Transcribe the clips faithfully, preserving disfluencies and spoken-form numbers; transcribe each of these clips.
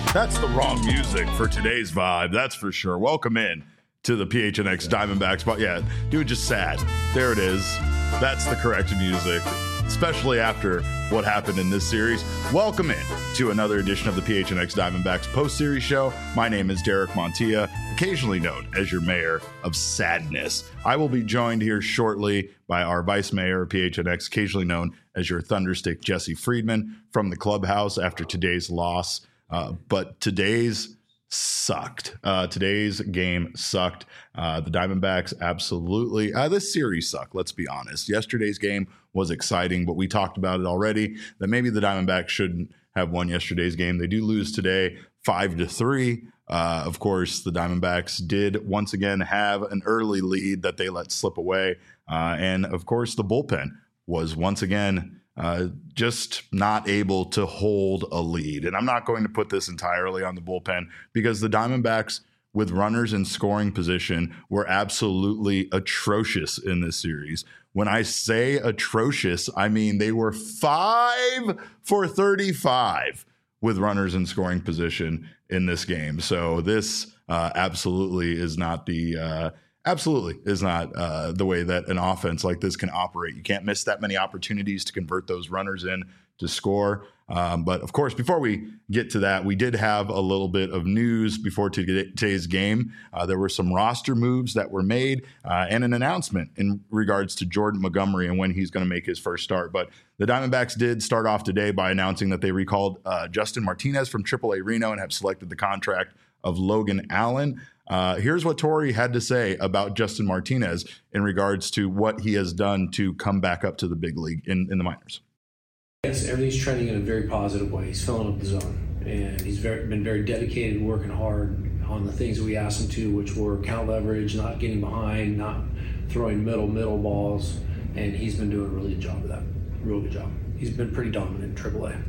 That's the wrong music for today's vibe, that's for sure. Welcome in to the P H N X Diamondbacks. But yeah, do it just sad. There it is. That's the correct music, especially after what happened in this series. Welcome in to another edition of the P H N X Diamondbacks post-series show. My name is Derek Montilla, occasionally known as your mayor of sadness. I will be joined here shortly by our vice mayor of P H N X, occasionally known as your Thunderstick, Jesse Friedman, from the clubhouse after today's loss. Uh, but today's sucked. Uh, today's game sucked. Uh, the Diamondbacks absolutely, uh, this series sucked, let's be honest. Yesterday's game was exciting, but we talked about it already, that maybe the Diamondbacks shouldn't have won yesterday's game. They do lose today, five to three. Uh, of course, the Diamondbacks did once again have an early lead that they let slip away. Uh, and of course, the bullpen was once again Uh, just not able to hold a lead. And I'm not going to put this entirely on the bullpen because the Diamondbacks with runners in scoring position were absolutely atrocious in this series. When I say atrocious, I mean they were five for thirty-five with runners in scoring position in this game. So this uh, absolutely is not the uh, Absolutely is not uh, the way that an offense like this can operate. You can't miss that many opportunities to convert those runners in to score. Um, but of course, before we get to that, we did have a little bit of news before today's game. Uh, there were some roster moves that were made uh, and an announcement in regards to Jordan Montgomery and when he's going to make his first start. But the Diamondbacks did start off today by announcing that they recalled uh, Justin Martinez from triple A Reno and have selected the contract of Logan Allen. Uh, here's what Torey had to say about Justin Martinez in regards to what he has done to come back up to the big league in, in the minors. Yes, everything's trending in a very positive way. He's filling up the zone, and he's very, been very dedicated, working hard on the things that we asked him to, which were count leverage, not getting behind, not throwing middle, middle balls, and he's been doing a really good job of that. Real good job. He's been pretty dominant in triple A.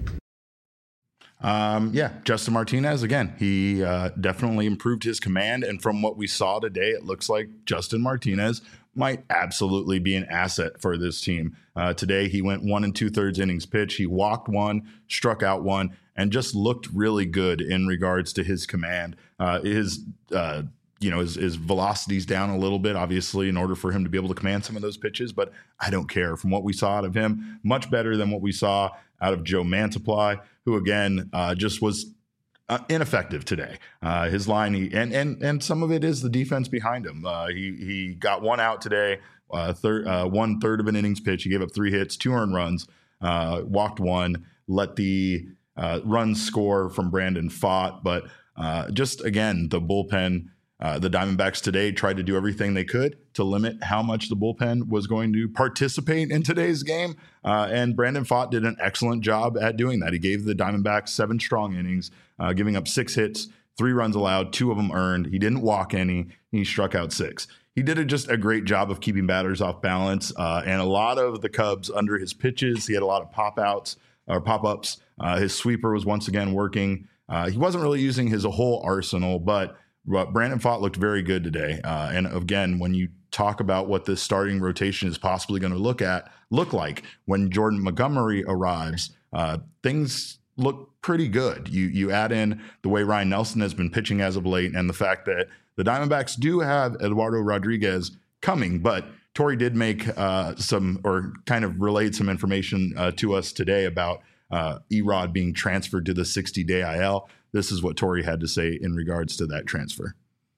Um, yeah, Justin Martinez, again, he uh, definitely improved his command. And from what we saw today, it looks like Justin Martinez might absolutely be an asset for this team. Uh, today, he went one and two thirds innings pitch. He walked one, struck out one, and just looked really good in regards to his command. Uh, his, uh, you know, his, his velocity's down a little bit, obviously, in order for him to be able to command some of those pitches. But I don't care. From what we saw out of him, much better than what we saw out of Joe Mantiply, who again uh, just was uh, ineffective today. Uh, his line, he, and and and some of it is the defense behind him. Uh, he he got one out today, uh, third uh, one third of an innings pitch. He gave up three hits, two earned runs, uh, walked one, let the uh, runs score from Brandon Pfaadt. But uh, just again, the bullpen. Uh, the Diamondbacks today tried to do everything they could to limit how much the bullpen was going to participate in today's game. Uh, and Brandon Pfaadt did an excellent job at doing that. He gave the Diamondbacks seven strong innings, uh, giving up six hits, three runs allowed, two of them earned. He didn't walk any. He struck out six. He did a, just a great job of keeping batters off balance. Uh, and a lot of the Cubs under his pitches, he had a lot of pop-outs or pop-ups. Uh, his sweeper was once again working. Uh, he wasn't really using his whole arsenal, but But Brandon Pfaadt looked very good today. Uh, and again, when you talk about what this starting rotation is possibly going to look at, look like when Jordan Montgomery arrives, uh, things look pretty good. You you add in the way Ryan Nelson has been pitching as of late and the fact that the Diamondbacks do have Eduardo Rodriguez coming, but Torey did make uh, some or kind of relayed some information uh, to us today about uh, Erod being transferred to the sixty-day I L. This is what Torey had to say in regards to that transfer.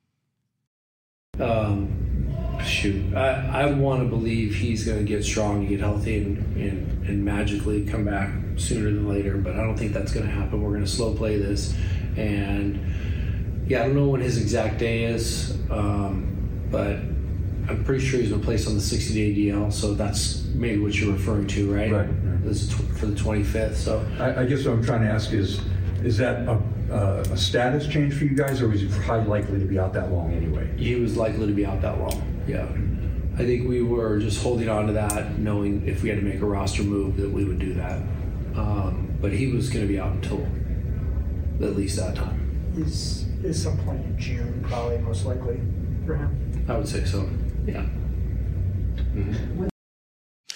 Um, shoot, I, I want to believe he's going to get strong, get healthy, and, and, and magically come back sooner than later. But I don't think that's going to happen. We're going to slow play this. And, yeah, I don't know when his exact day is, um, but I'm pretty sure he's been placed on the sixty-day D L. So that's maybe what you're referring to, right? Right. right. This is t- for the twenty-fifth. So I, I guess what I'm trying to ask is, is that a Uh, a status change for you guys, or was he highly likely to be out that long anyway? He was likely to be out that long, yeah. I think we were just holding on to that, knowing if we had to make a roster move that we would do that. Um, but he was going to be out until at least that time. Is is some point in June probably most likely for him? I would say so, yeah. Mm-hmm.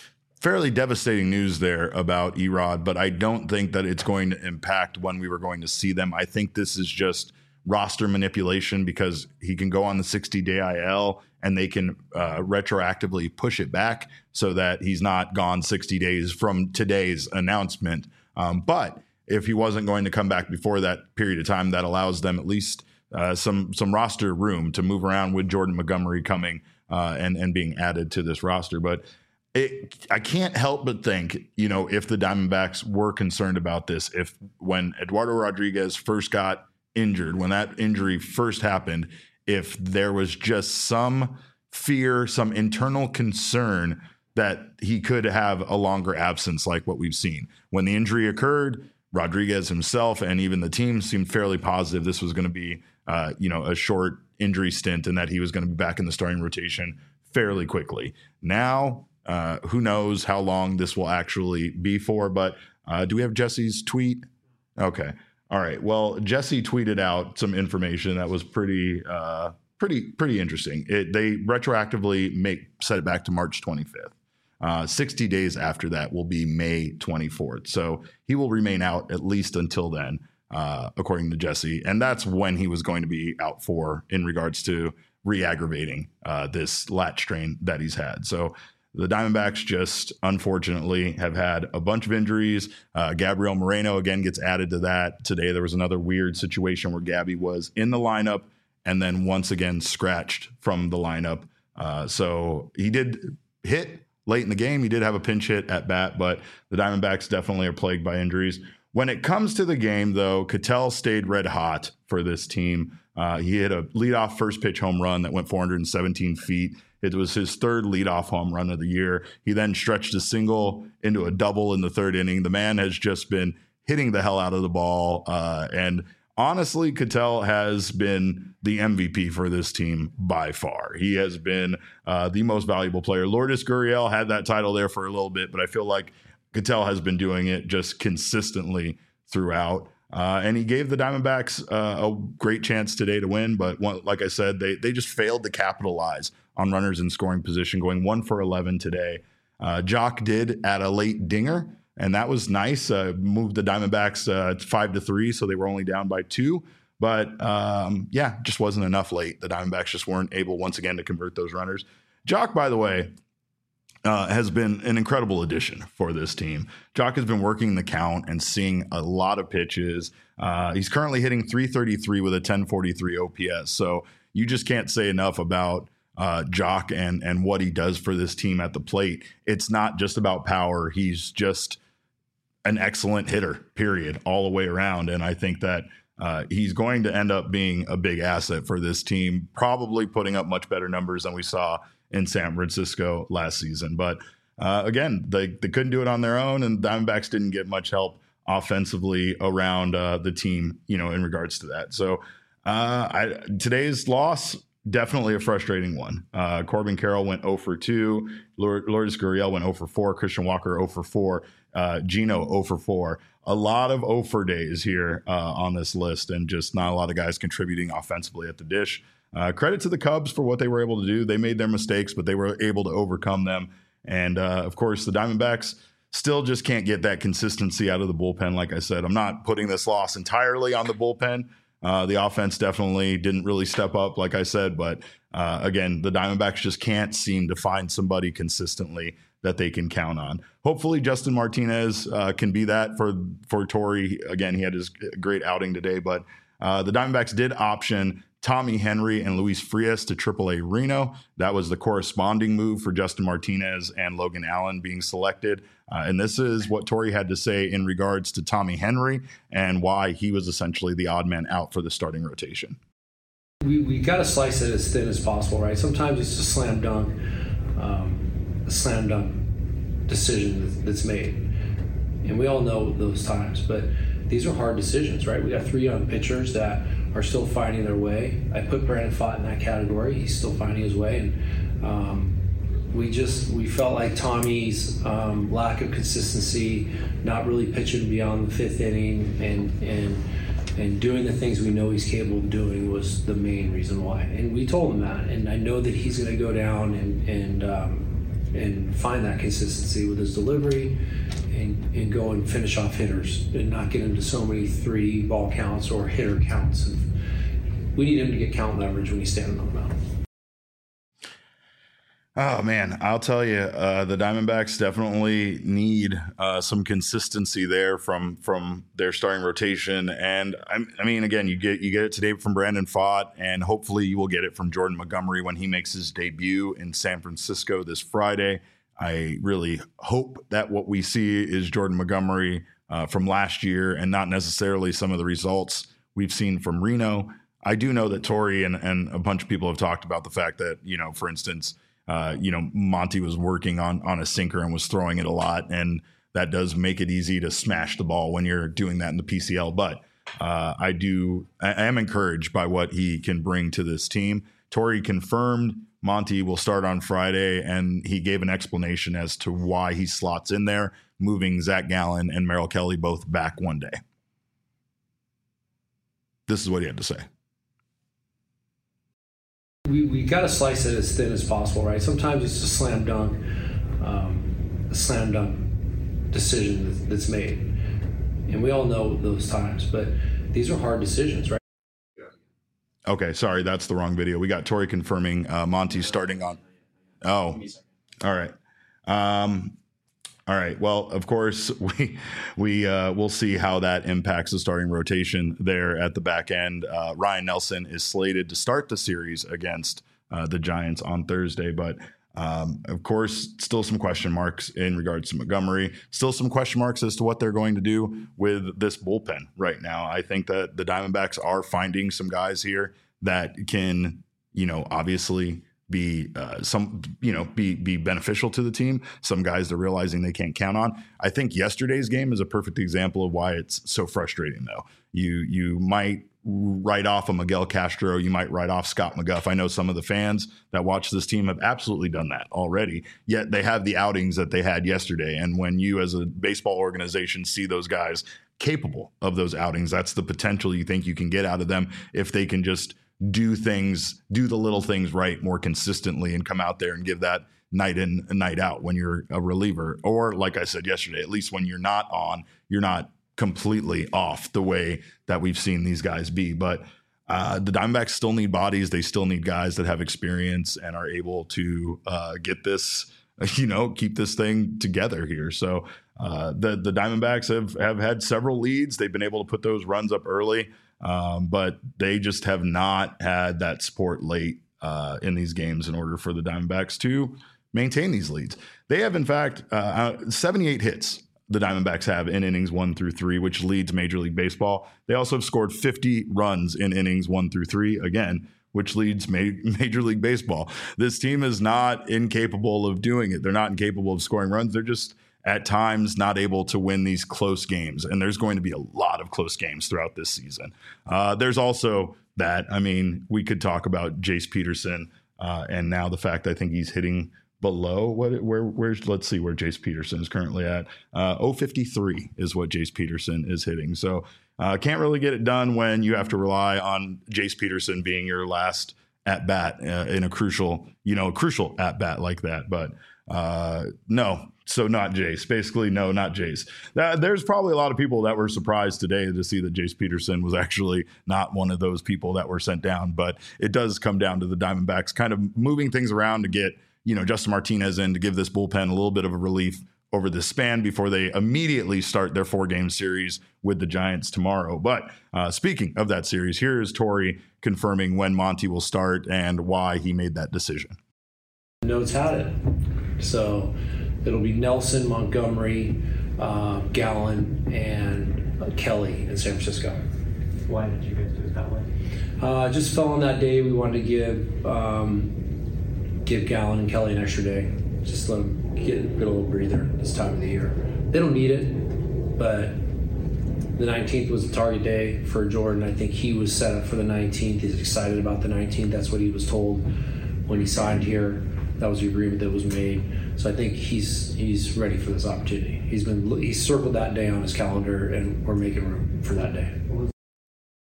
fairly devastating news there about Erod, but I don't think that it's going to impact when we were going to see them. I think this is just roster manipulation because he can go on the sixty-day I L and they can uh, retroactively push it back so that he's not gone sixty days from today's announcement. Um, but if he wasn't going to come back before that period of time, that allows them at least uh, some some roster room to move around with Jordan Montgomery coming uh, and, and being added to this roster. But It, I can't help but think, you know, if the Diamondbacks were concerned about this, if when Eduardo Rodriguez first got injured, when that injury first happened, if there was just some fear, some internal concern that he could have a longer absence like what we've seen. When the injury occurred, Rodriguez himself and even the team seemed fairly positive this was going to be, uh, you know, a short injury stint and that he was going to be back in the starting rotation fairly quickly. Now, Uh, who knows how long this will actually be for, but uh, do we have Jesse's tweet? Okay. All right. Well, Jesse tweeted out some information that was pretty, uh, pretty, pretty interesting. It, they retroactively make set it back to March twenty-fifth. Uh, sixty days after that will be May twenty-fourth. So he will remain out at least until then, uh, according to Jesse. And that's when he was going to be out for in regards to re-aggravating uh, this lat strain that he's had. So the Diamondbacks just, unfortunately, have had a bunch of injuries. Uh, Gabriel Moreno, again, gets added to that. Today, there was another weird situation where Gabby was in the lineup and then once again scratched from the lineup. Uh, so he did hit late in the game. He did have a pinch hit at bat, but the Diamondbacks definitely are plagued by injuries. When it comes to the game, though, Ketel stayed red hot for this team. Uh, he hit a leadoff first pitch home run that went four hundred seventeen feet. It was his third leadoff home run of the year. He then stretched a single into a double in the third inning. The man has just been hitting the hell out of the ball. Uh, and honestly, Ketel has been the M V P for this team by far. He has been uh, the most valuable player. Lourdes Gurriel had that title there for a little bit, but I feel like Ketel has been doing it just consistently throughout. Uh, and he gave the Diamondbacks uh, a great chance today to win. But one, like I said, they they just failed to capitalize on runners in scoring position, going one for eleven today. Uh, Jock did add a late dinger, and that was nice. Uh, moved the Diamondbacks uh, five to three, so they were only down by two. But um, yeah, just wasn't enough late. The Diamondbacks just weren't able once again to convert those runners. Jock, by the way, Uh, has been an incredible addition for this team. Jock has been working the count and seeing a lot of pitches. Uh, he's currently hitting three thirty-three with a ten forty-three O P S. So you just can't say enough about uh, Jock and, and what he does for this team at the plate. It's not just about power. He's just an excellent hitter, period, all the way around. And I think that uh, he's going to end up being a big asset for this team, probably putting up much better numbers than we saw in San Francisco last season. But uh, again, they, they couldn't do it on their own, and Diamondbacks didn't get much help offensively around uh, the team, you know, in regards to that. So uh, I, today's loss, definitely a frustrating one. Uh, Corbin Carroll went zero for two. Lourdes Gurriel went zero for four. Christian Walker zero for four. Uh, Gino zero for four. A lot of zero for days here uh, on this list, and just not a lot of guys contributing offensively at the dish. Uh, credit to the Cubs for what they were able to do. They made their mistakes, but they were able to overcome them. And, uh, of course, the Diamondbacks still just can't get that consistency out of the bullpen. Like I said, I'm not putting this loss entirely on the bullpen. Uh, the offense definitely didn't really step up, like I said. But, uh, again, the Diamondbacks just can't seem to find somebody consistently that they can count on. Hopefully Justin Martinez uh, can be that for, for Torrey. Again, he had his great outing today. But uh, the Diamondbacks did option Tommy Henry and Luis Frias to triple A Reno. That was the corresponding move for Justin Martinez and Logan Allen being selected. Uh, and this is what Torrey had to say in regards to Tommy Henry and why he was essentially the odd man out for the starting rotation. We we got to slice it as thin as possible, right? Sometimes it's a slam dunk, um, a slam dunk decision that's made. And we all know those times, but these are hard decisions, right? We got three young pitchers that are still finding their way. I put Brandon Pfaadt in that category. He's still finding his way. And um, we just, we felt like Tommy's um, lack of consistency, not really pitching beyond the fifth inning and, and, and doing the things we know he's capable of doing was the main reason why. And we told him that. And I know that he's going to go down and, and um, and find that consistency with his delivery and, and go and finish off hitters and not get into so many three ball counts or hitter counts. And we need him to get count leverage when he's standing on the mound. Oh, man, I'll tell you, uh, the Diamondbacks definitely need uh, some consistency there from from their starting rotation. And, I, I mean, again, you get you get it today from Brandon Pfaadt, and hopefully you will get it from Jordan Montgomery when he makes his debut in San Francisco this Friday. I really hope that what we see is Jordan Montgomery uh, from last year and not necessarily some of the results we've seen from Reno. I do know that Torey and, and a bunch of people have talked about the fact that, you know, for instance, Uh, you know, Monty was working on on a sinker and was throwing it a lot, and that does make it easy to smash the ball when you're doing that in the P C L. But uh, I do, I, I am encouraged by what he can bring to this team. Torey confirmed Monty will start on Friday, and he gave an explanation as to why he slots in there, moving Zach Gallen and Merrill Kelly both back one day. This is what he had to say. We we got to slice it as thin as possible, right? Sometimes it's a slam dunk, um, a slam dunk decision that's made, and we all know those times. But these are hard decisions, right? Okay, sorry, that's the wrong video. We got Torey confirming uh, Monty starting on. Oh, all right. Um, all right. Well, of course, we we uh, we'll see how that impacts the starting rotation there at the back end. Uh, Ryan Nelson is slated to start the series against uh, the Giants on Thursday, but um, of course, still some question marks in regards to Montgomery. Still some question marks as to what they're going to do with this bullpen right now. I think that the Diamondbacks are finding some guys here that can, you know, obviously be uh, some, you know, be be beneficial to the team. Some guys they're realizing they can't count on. I think yesterday's game is a perfect example of why it's so frustrating, though. You you might write off a Miguel Castro. You might write off Scott McGough. I know some of the fans that watch this team have absolutely done that already, yet they have the outings that they had yesterday. And when you as a baseball organization see those guys capable of those outings, that's the potential you think you can get out of them if they can just do things, do the little things right more consistently and come out there and give that night in and night out when you're a reliever. Or like I said yesterday, at least when you're not on, you're not completely off the way that we've seen these guys be. But uh, the Diamondbacks still need bodies. They still need guys that have experience and are able to uh, get this, you know, keep this thing together here. So uh, the, the Diamondbacks have, have had several leads. They've been able to put those runs up early. Um, but they just have not had that support late uh, in these games in order for the Diamondbacks to maintain these leads. They have, in fact, uh, seventy-eight hits the Diamondbacks have in innings one through three, which leads Major League Baseball. They also have scored fifty runs in innings one through three, again, which leads ma- Major League Baseball. This team is not incapable of doing it. They're not incapable of scoring runs. They're just at times not able to win these close games. And there's going to be a lot of close games throughout this season. Uh, there's also that, I mean, we could talk about Jace Peterson uh, and now the fact I think he's hitting below what, where, where's, let's see where Jace Peterson is currently at. Uh, oh fifty-three is what Jace Peterson is hitting. So uh, can't really get it done when you have to rely on Jace Peterson being your last at bat uh, in a crucial, you know, a crucial at bat like that. But uh, no, So not Jace. Basically, no, not Jace. Uh, there's probably a lot of people that were surprised today to see that Jace Peterson was actually not one of those people that were sent down. But it does come down to the Diamondbacks kind of moving things around to get, you know, Justin Martinez in to give this bullpen a little bit of a relief over this span before they immediately start their four-game series with the Giants tomorrow. But uh, speaking of that series, here is Torey confirming when Monty will start and why he made that decision. Notes had it. So it'll be Nelson, Montgomery, uh, Gallen, and uh, Kelly in San Francisco. Why did you guys do it that way? Uh, just fell on that day. We wanted to give um, give Gallen and Kelly an extra day. Just let them get, get a little breather this time of the year. They don't need it, but the nineteenth was the target day for Jordan. I think he was set up for the nineteenth. He's excited about the nineteenth. That's what he was told when he signed here. That was the agreement that was made. So I think he's he's ready for this opportunity. He's been he's circled that day on his calendar, and we're making room for that day.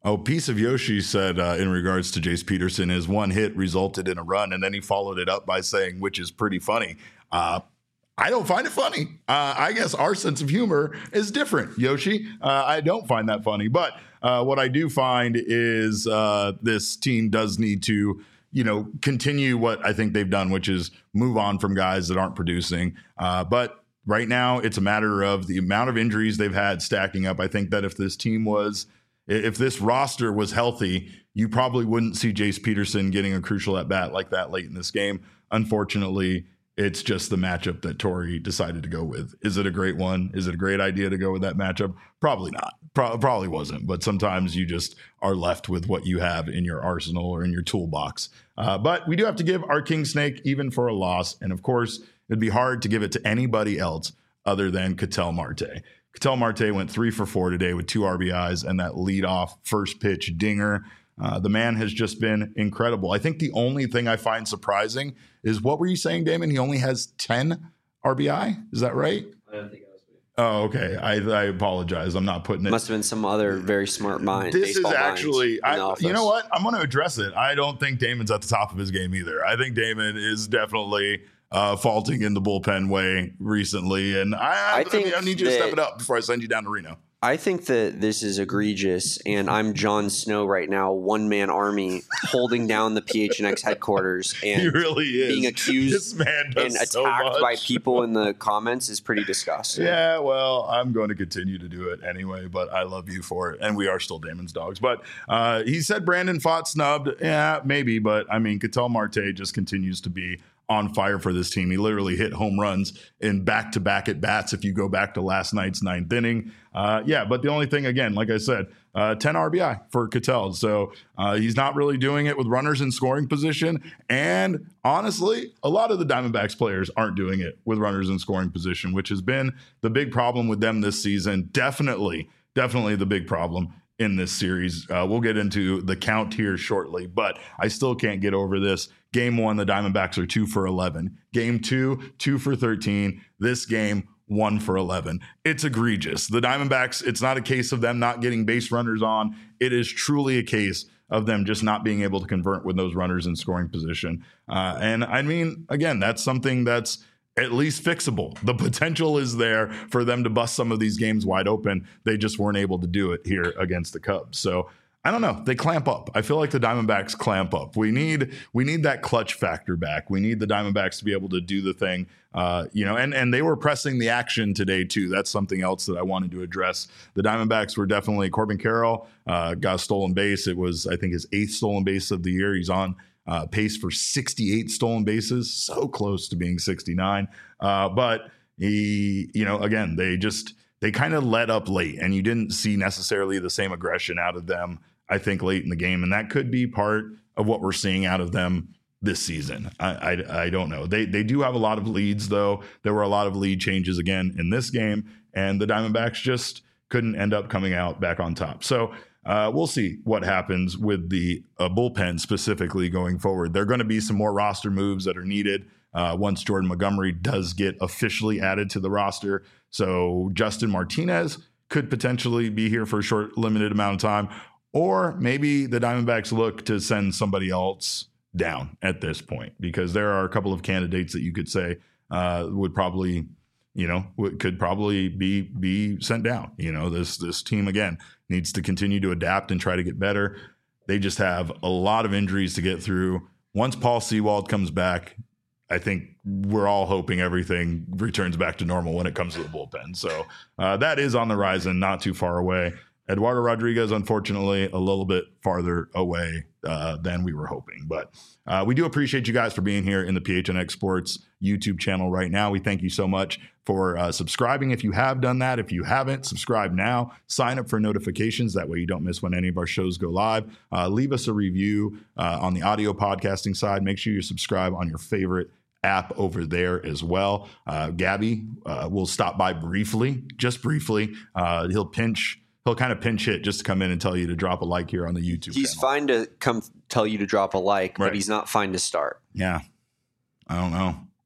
Oh, Piece of Yoshi said uh, in regards to Jace Peterson, his one hit resulted in a run, and then he followed it up by saying, which is pretty funny. Uh, I don't find it funny. Uh, I guess our sense of humor is different, Yoshi. Uh, I don't find that funny. But uh, what I do find is uh, this team does need to, you know, continue what I think they've done, which is move on from guys that aren't producing. Uh, but right now, it's a matter of the amount of injuries they've had stacking up. I think that if this team was, if this roster was healthy, you probably wouldn't see Jace Peterson getting a crucial at bat like that late in this game. Unfortunately, it's just the matchup that Torrey decided to go with. Is it a great one? Is it a great idea to go with that matchup? Probably not. Pro- probably wasn't. But sometimes you just are left with what you have in your arsenal or in your toolbox. Uh, but we do have to give our King Snake even for a loss. And of course, it'd be hard to give it to anybody else other than Ketel Marte. Ketel Marte went three for four today with two R B Is and that leadoff first pitch dinger. Uh, the man has just been incredible. I think the only thing I find surprising is, what were you saying, Damon? He only has ten R B I? Is that right? I don't think I was. Oh, okay. I, I apologize. I'm not putting it. Must have been some other very smart mind. This is baseball actually, minds in the I, office. you know what? I'm going to address it. I don't think Damon's at the top of his game either. I think Damon is definitely uh, faulting in the bullpen way recently. And I, I, I think I need you to step that- it up before I send you down to Reno. I think that this is egregious, and I'm Jon Snow right now, one-man army, holding down the P H N X headquarters, and He really is. being accused This man does and so attacked much. by people in the comments is pretty disgusting. Yeah, well, I'm going to continue to do it anyway, but I love you for it. And we are still Damon's dogs. But uh, he said Brandon Pfaadt snubbed. Yeah, maybe. But, I mean, Ketel Marte just continues to be on fire for this team. He literally hit home runs in back-to-back at-bats if you go back to last night's ninth inning. Uh, yeah, but the only thing, again, like I said, uh, ten R B I for Ketel. So uh, he's not really doing it with runners in scoring position. And honestly, a lot of the Diamondbacks players aren't doing it with runners in scoring position, which has been the big problem with them this season. Definitely, definitely the big problem in this series. Uh, we'll get into the count here shortly, but I still can't get over this. Game one, the Diamondbacks are two for eleven. Game two, two for thirteen. This game, one for eleven. It's egregious. The Diamondbacks, it's not a case of them not getting base runners on. It is truly a case of them just not being able to convert with those runners in scoring position. Uh, and I mean, again, that's something that's at least fixable. The potential is there for them to bust some of these games wide open. They just weren't able to do it here against the Cubs. So I don't know. They clamp up. I feel like the Diamondbacks clamp up. We need we need that clutch factor back. We need the Diamondbacks to be able to do the thing, uh, you know. And and they were pressing the action today too. That's something else that I wanted to address. The Diamondbacks were definitely Corbin Carroll uh, got a stolen base. It was, I think, his eighth stolen base of the year. He's on uh, pace for sixty-eight stolen bases, so close to being sixty-nine. Uh, but he, you know, again, they just they kind of let up late, and you didn't see necessarily the same aggression out of them, I think, late in the game. And that could be part of what we're seeing out of them this season. I, I, I don't know. They they do have a lot of leads, though. There were a lot of lead changes again in this game, and the Diamondbacks just couldn't end up coming out back on top. So uh, we'll see what happens with the uh, bullpen specifically going forward. There are going to be some more roster moves that are needed uh, once Jordan Montgomery does get officially added to the roster. So Justin Martinez could potentially be here for a short, limited amount of time. Or maybe the Diamondbacks look to send somebody else down at this point, because there are a couple of candidates that you could say uh, would probably, you know, would, could probably be be sent down. You know, this this team, again, needs to continue to adapt and try to get better. They just have a lot of injuries to get through. Once Paul Sewald comes back, I think we're all hoping everything returns back to normal when it comes to the bullpen. So uh, that is on the horizon, not too far away. Eduardo Rodriguez, unfortunately, a little bit farther away uh, than we were hoping. But uh, we do appreciate you guys for being here in the P H N X Sports YouTube channel right now. We thank you so much for uh, subscribing. If you have done that, if you haven't, subscribe now. Sign up for notifications. That way you don't miss when any of our shows go live. Uh, leave us a review uh, on the audio podcasting side. Make sure you subscribe on your favorite app over there as well. Uh, Gabby uh, will stop by briefly, just briefly. Uh, he'll pinch... He'll kind of pinch hit just to come in and tell you to drop a like here on the YouTube He's channel. fine to come tell you to drop a like, Right. but he's not fine to start. Yeah. I don't know.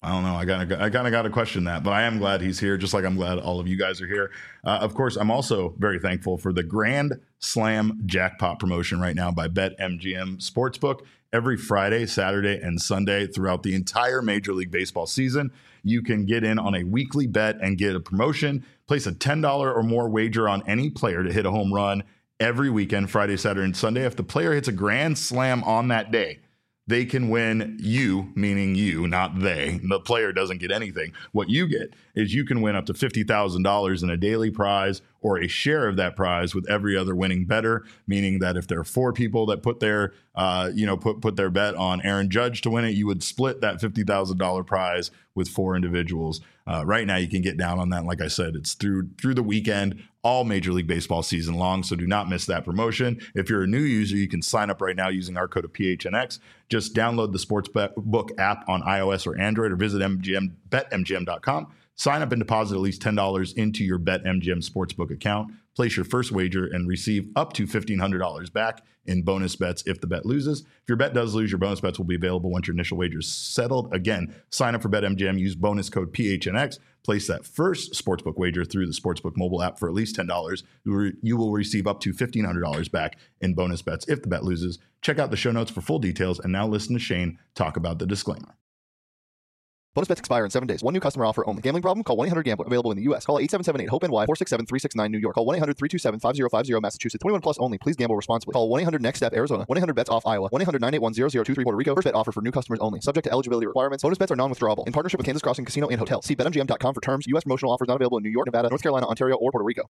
I don't know. I got I kind of got to question that, but I am glad he's here, just like I'm glad all of you guys are here. Uh, of course, I'm also very thankful for the Grand Slam Jackpot promotion right now by BetMGM Sportsbook. Every Friday, Saturday, and Sunday throughout the entire Major League Baseball season, you can get in on a weekly bet and get a promotion. Place a ten dollars or more wager on any player to hit a home run every weekend, Friday, Saturday, and Sunday. If the player hits a grand slam on that day, they can win you, meaning you, not they. The player doesn't get anything. What you get is you can win up to fifty thousand dollars in a daily prize or a share of that prize with every other winning bettor, meaning that if there are four people that put their, uh, you know, put, put their bet on Aaron Judge to win it, you would split that fifty thousand dollars prize with four individuals. Uh, right now, you can get down on that. Like I said, it's through through the weekend, all Major League Baseball season long. So do not miss that promotion. If you're a new user, you can sign up right now using our code of P H N X. Just download the Sportsbook app on iOS or Android, or visit M G M, bet M G M dot com. Sign up and deposit at least ten dollars into your BetMGM Sportsbook account. Place your first wager and receive up to fifteen hundred dollars back in bonus bets if the bet loses. If your bet does lose, your bonus bets will be available once your initial wager is settled. Again, sign up for BetMGM, use bonus code P H N X. Place that first sportsbook wager through the Sportsbook mobile app for at least ten dollars. You will receive up to fifteen hundred dollars back in bonus bets if the bet loses. Check out the show notes for full details, and now listen to Shane talk about the disclaimer. Bonus bets expire in seven days. One new customer offer only. Gambling problem? Call one eight hundred gambler. Available in the U S. Call eight seven seven eight hope N Y four six seven three six nine New York. Call one eight hundred three two seven five zero five zero Massachusetts. twenty-one plus only. Please gamble responsibly. Call one eight hundred next step Arizona. one eight hundred bets off Iowa. one eight hundred nine eight one zero zero two three Puerto Rico. First bet offer for new customers only. Subject to eligibility requirements. Bonus bets are non-withdrawable. In partnership with Kansas Crossing Casino and Hotel. See bet M G M dot com for terms. U S promotional offers not available in New York, Nevada, North Carolina, Ontario, or Puerto Rico.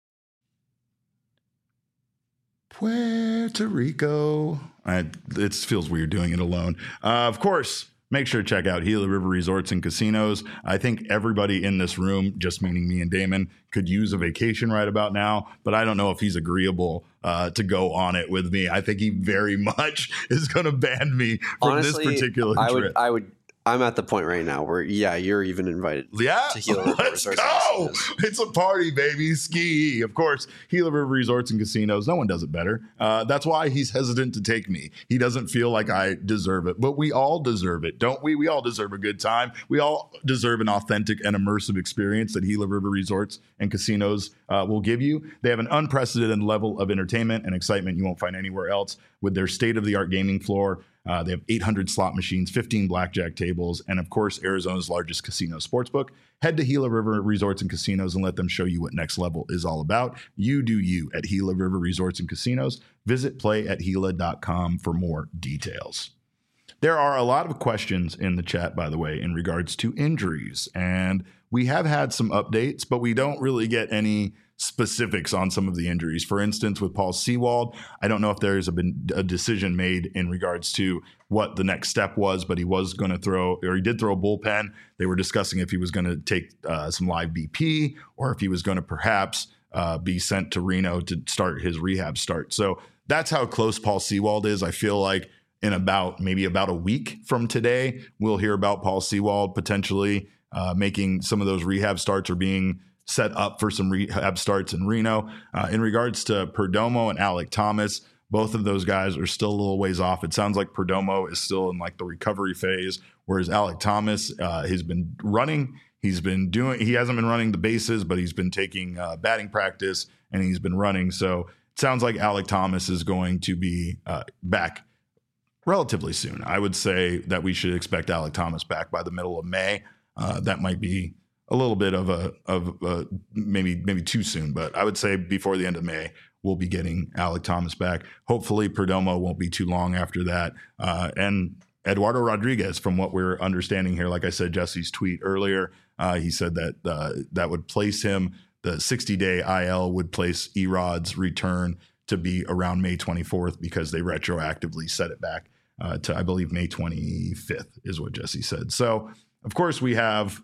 Puerto Rico. I, it feels weird doing it alone. Uh, of course, make sure to check out Gila River Resorts and Casinos. I think everybody in this room, just meaning me and Damon, could use a vacation right about now, but I don't know if he's agreeable uh, to go on it with me. I think he very much is going to ban me from Honestly, this particular I trip. would, I would, I'm at the point right now where, yeah, you're even invited. Yeah, to Gila River let's Resorts go. and Casinos. It's a party, baby. Ski. Of course, Gila River Resorts and Casinos. No one does it better. Uh, that's why he's hesitant to take me. He doesn't feel like I deserve it, but we all deserve it, don't we? We all deserve a good time. We all deserve an authentic and immersive experience that Gila River Resorts and Casinos uh, will give you. They have an unprecedented level of entertainment and excitement you won't find anywhere else with their state-of-the-art gaming floor. Uh, they have eight hundred slot machines, fifteen blackjack tables, and of course, Arizona's largest casino sportsbook. Head to Gila River Resorts and Casinos and let them show you what next level is all about. You do you at Gila River Resorts and Casinos. Visit play at gila dot com for more details. There are a lot of questions in the chat, by the way, in regards to injuries, and we have had some updates, but we don't really get any specifics on some of the injuries. For instance, with Paul Sewald, I don't know if there's a, been a decision made in regards to what the next step was, but he was going to throw, or he did throw a bullpen. They were discussing if he was going to take uh, some live B P or if he was going to perhaps uh, be sent to Reno to start his rehab start. So that's how close Paul Sewald is. I feel like in about maybe about a week from today, we'll hear about Paul Sewald potentially uh, making some of those rehab starts or being set up for some rehab starts in Reno. Uh, in regards to Perdomo and Alek Thomas, both of those guys are still a little ways off. It sounds like Perdomo is still in like the recovery phase, whereas Alek Thomas uh, has been running. He's been doing, he hasn't been running the bases, but he's been taking uh, batting practice and he's been running. So it sounds like Alek Thomas is going to be uh, back relatively soon. I would say that we should expect Alek Thomas back by the middle of May. Uh, that might be a little bit of a of a, maybe maybe too soon, but I would say before the end of May we'll be getting Alek Thomas back. Hopefully Perdomo won't be too long after that. Uh, and Eduardo Rodriguez, from what we're understanding here, like I said, Jesse's tweet earlier, uh, he said that uh, that would place him, the sixty-day I L would place Erod's return to be around May twenty-fourth because they retroactively set it back uh, to, I believe, May twenty-fifth is what Jesse said. So, of course, we have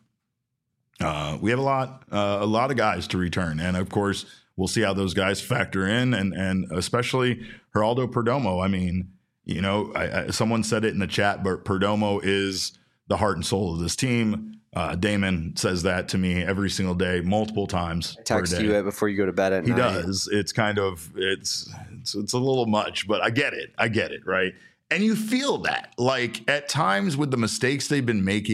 Uh, we have a lot, uh, a lot of guys to return, and of course, we'll see how those guys factor in, and and especially Geraldo Perdomo. I mean, you know, I, I, someone said it in the chat, but Perdomo is the heart and soul of this team. Uh, Damon says that to me every single day, multiple times. Text per day. you it before you go to bed at he night. He does. It's kind of it's, it's it's a little much, but I get it. I get it, right? And you feel that, like at times with the mistakes they've been making.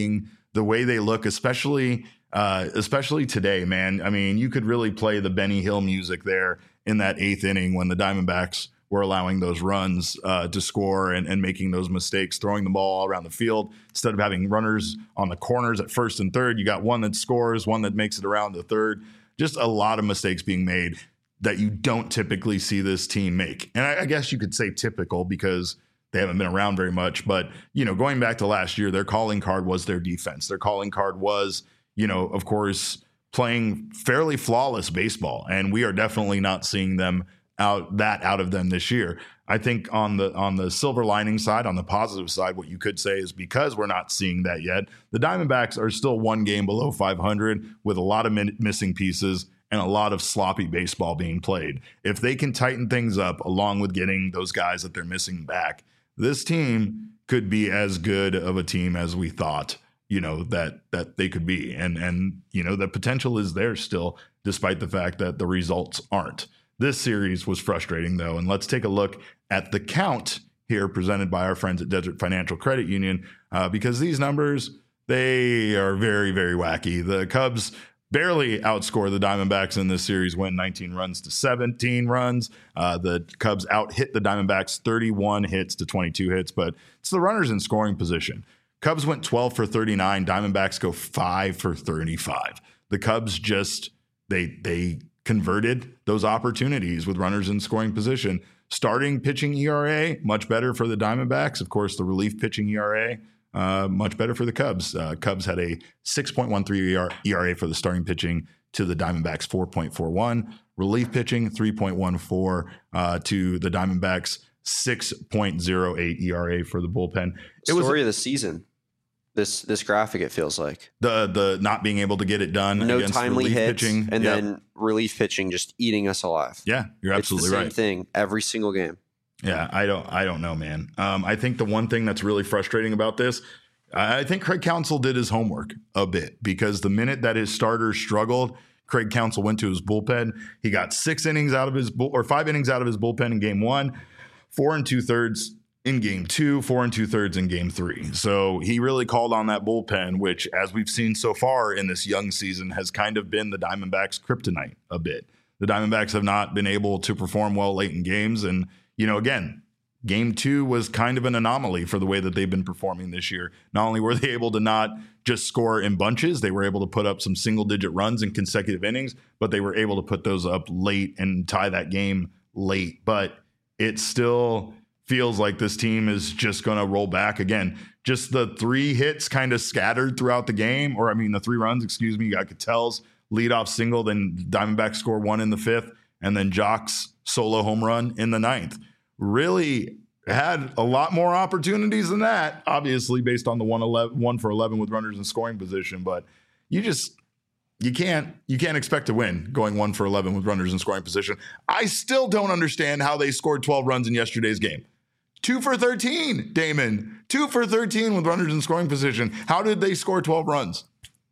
the way they look, especially uh, especially today, man. I mean, you could really play the Benny Hill music there in that eighth inning when the Diamondbacks were allowing those runs uh, to score and, and making those mistakes, throwing the ball all around the field. Instead of having runners on the corners at first and third, you got one that scores, one that makes it around the third. Just a lot of mistakes being made that you don't typically see this team make. And I, I guess you could say typical because they haven't been around very much. But, you know, going back to last year, their calling card was their defense. Their calling card was, you know, of course, playing fairly flawless baseball. And we are definitely not seeing them out that out of them this year. I think on the on the silver lining side, on the positive side, what you could say is because we're not seeing that yet, the Diamondbacks are still one game below five hundred with a lot of min- missing pieces and a lot of sloppy baseball being played. If they can tighten things up along with getting those guys that they're missing back, this team could be as good of a team as we thought, you know, that that they could be. And and you know, the potential is there still, despite the fact that the results aren't. This series was frustrating, though, and let's take a look at the count here presented by our friends at Desert Financial Credit Union, uh, because these numbers, they are very, very wacky. The Cubs barely outscore the Diamondbacks in this series, win nineteen runs to seventeen runs. Uh, the Cubs out-hit the Diamondbacks thirty-one hits to twenty-two hits, but it's the runners in scoring position. Cubs went twelve for thirty-nine. Diamondbacks go five for thirty-five. The Cubs just, they they... converted those opportunities with runners in scoring position. Starting pitching E R A, much better for the Diamondbacks. Of course, the relief pitching E R A, uh, much better for the Cubs. Uh, Cubs had a six point one three E R A for the starting pitching to the Diamondbacks, four point four one. Relief pitching, three point one four uh, to the Diamondbacks, six point oh eight E R A for the bullpen. It Story was of the season. This this graphic, it feels like the the not being able to get it done. No against timely relief hits, pitching. and Yep. then relief pitching just eating us alive. Yeah, you're absolutely it's the same right. thing every single game. Yeah, I don't I don't know, man. Um, I think the one thing that's really frustrating about this, I think Craig Counsell did his homework a bit, because the minute that his starters struggled, Craig Counsell went to his bullpen. He got six innings out of his bull, or five innings out of his bullpen in game one, four and two thirds in game two, four and two thirds in game three. So he really called on that bullpen, which, as we've seen so far in this young season, has kind of been the Diamondbacks' kryptonite a bit. The Diamondbacks have not been able to perform well late in games. And, you know, again, game two was kind of an anomaly for the way that they've been performing this year. Not only were they able to not just score in bunches, they were able to put up some single digit runs in consecutive innings, but they were able to put those up late and tie that game late. But it's still feels like this team is just going to roll back again. Just the three hits kind of scattered throughout the game, or I mean the three runs, excuse me. You got Ketel's leadoff single, then Diamondbacks score one in the fifth, and then Jock's solo home run in the ninth. Really had a lot more opportunities than that, obviously based on the one eleven, one for eleven with runners in scoring position. But you just you can't you can't expect to win going one for eleven with runners in scoring position. I still don't understand how they scored twelve runs in yesterday's game. Two for thirteen, Damon. Two for thirteen with runners in scoring position. How did they score twelve runs?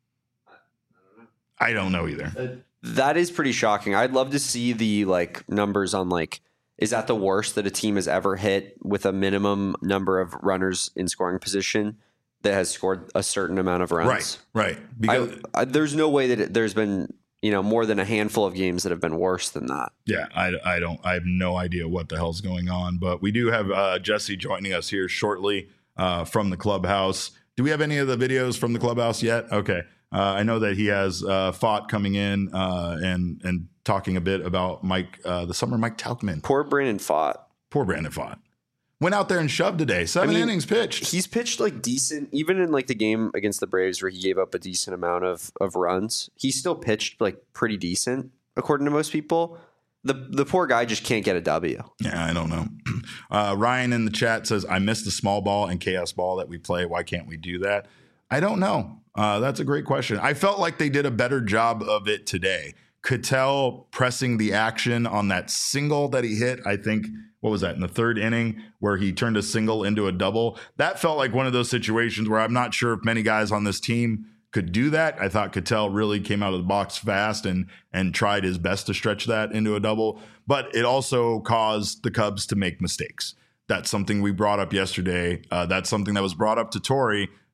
I don't know either. That is pretty shocking. I'd love to see the like numbers on like, is that the worst that a team has ever hit with a minimum number of runners in scoring position that has scored a certain amount of runs? Right, right. Because I, I, there's no way that it, there's been, you know, more than a handful of games that have been worse than that. Yeah, I, I don't, I have no idea what the hell's going on, but we do have uh, Jesse joining us here shortly uh, from the clubhouse. Do we have any of the videos from the clubhouse yet? Okay. Uh, I know that he has uh, Fought coming in uh, and and talking a bit about Mike, uh, the summer Mike Tauchman. Poor Brandon Fought. Poor Brandon Fought. Went out there and shoved today. Seven I mean, innings pitched. He's pitched like decent, even in like the game against the Braves where he gave up a decent amount of, of runs. He still pitched like pretty decent, according to most people. The the poor guy just can't get a W. Yeah, I don't know. Uh, Ryan in the chat says, I miss the small ball and chaos ball that we play. Why can't we do that? I don't know. Uh, that's a great question. I felt like they did a better job of it today. Ketel pressing the action on that single that he hit, I think, what was that, in the third inning where he turned a single into a double? That felt like one of those situations where I'm not sure if many guys on this team could do that. I thought Ketel really came out of the box fast and and tried his best to stretch that into a double, but it also caused the Cubs to make mistakes. That's something we brought up yesterday. Uh, that's something that was brought up to Torey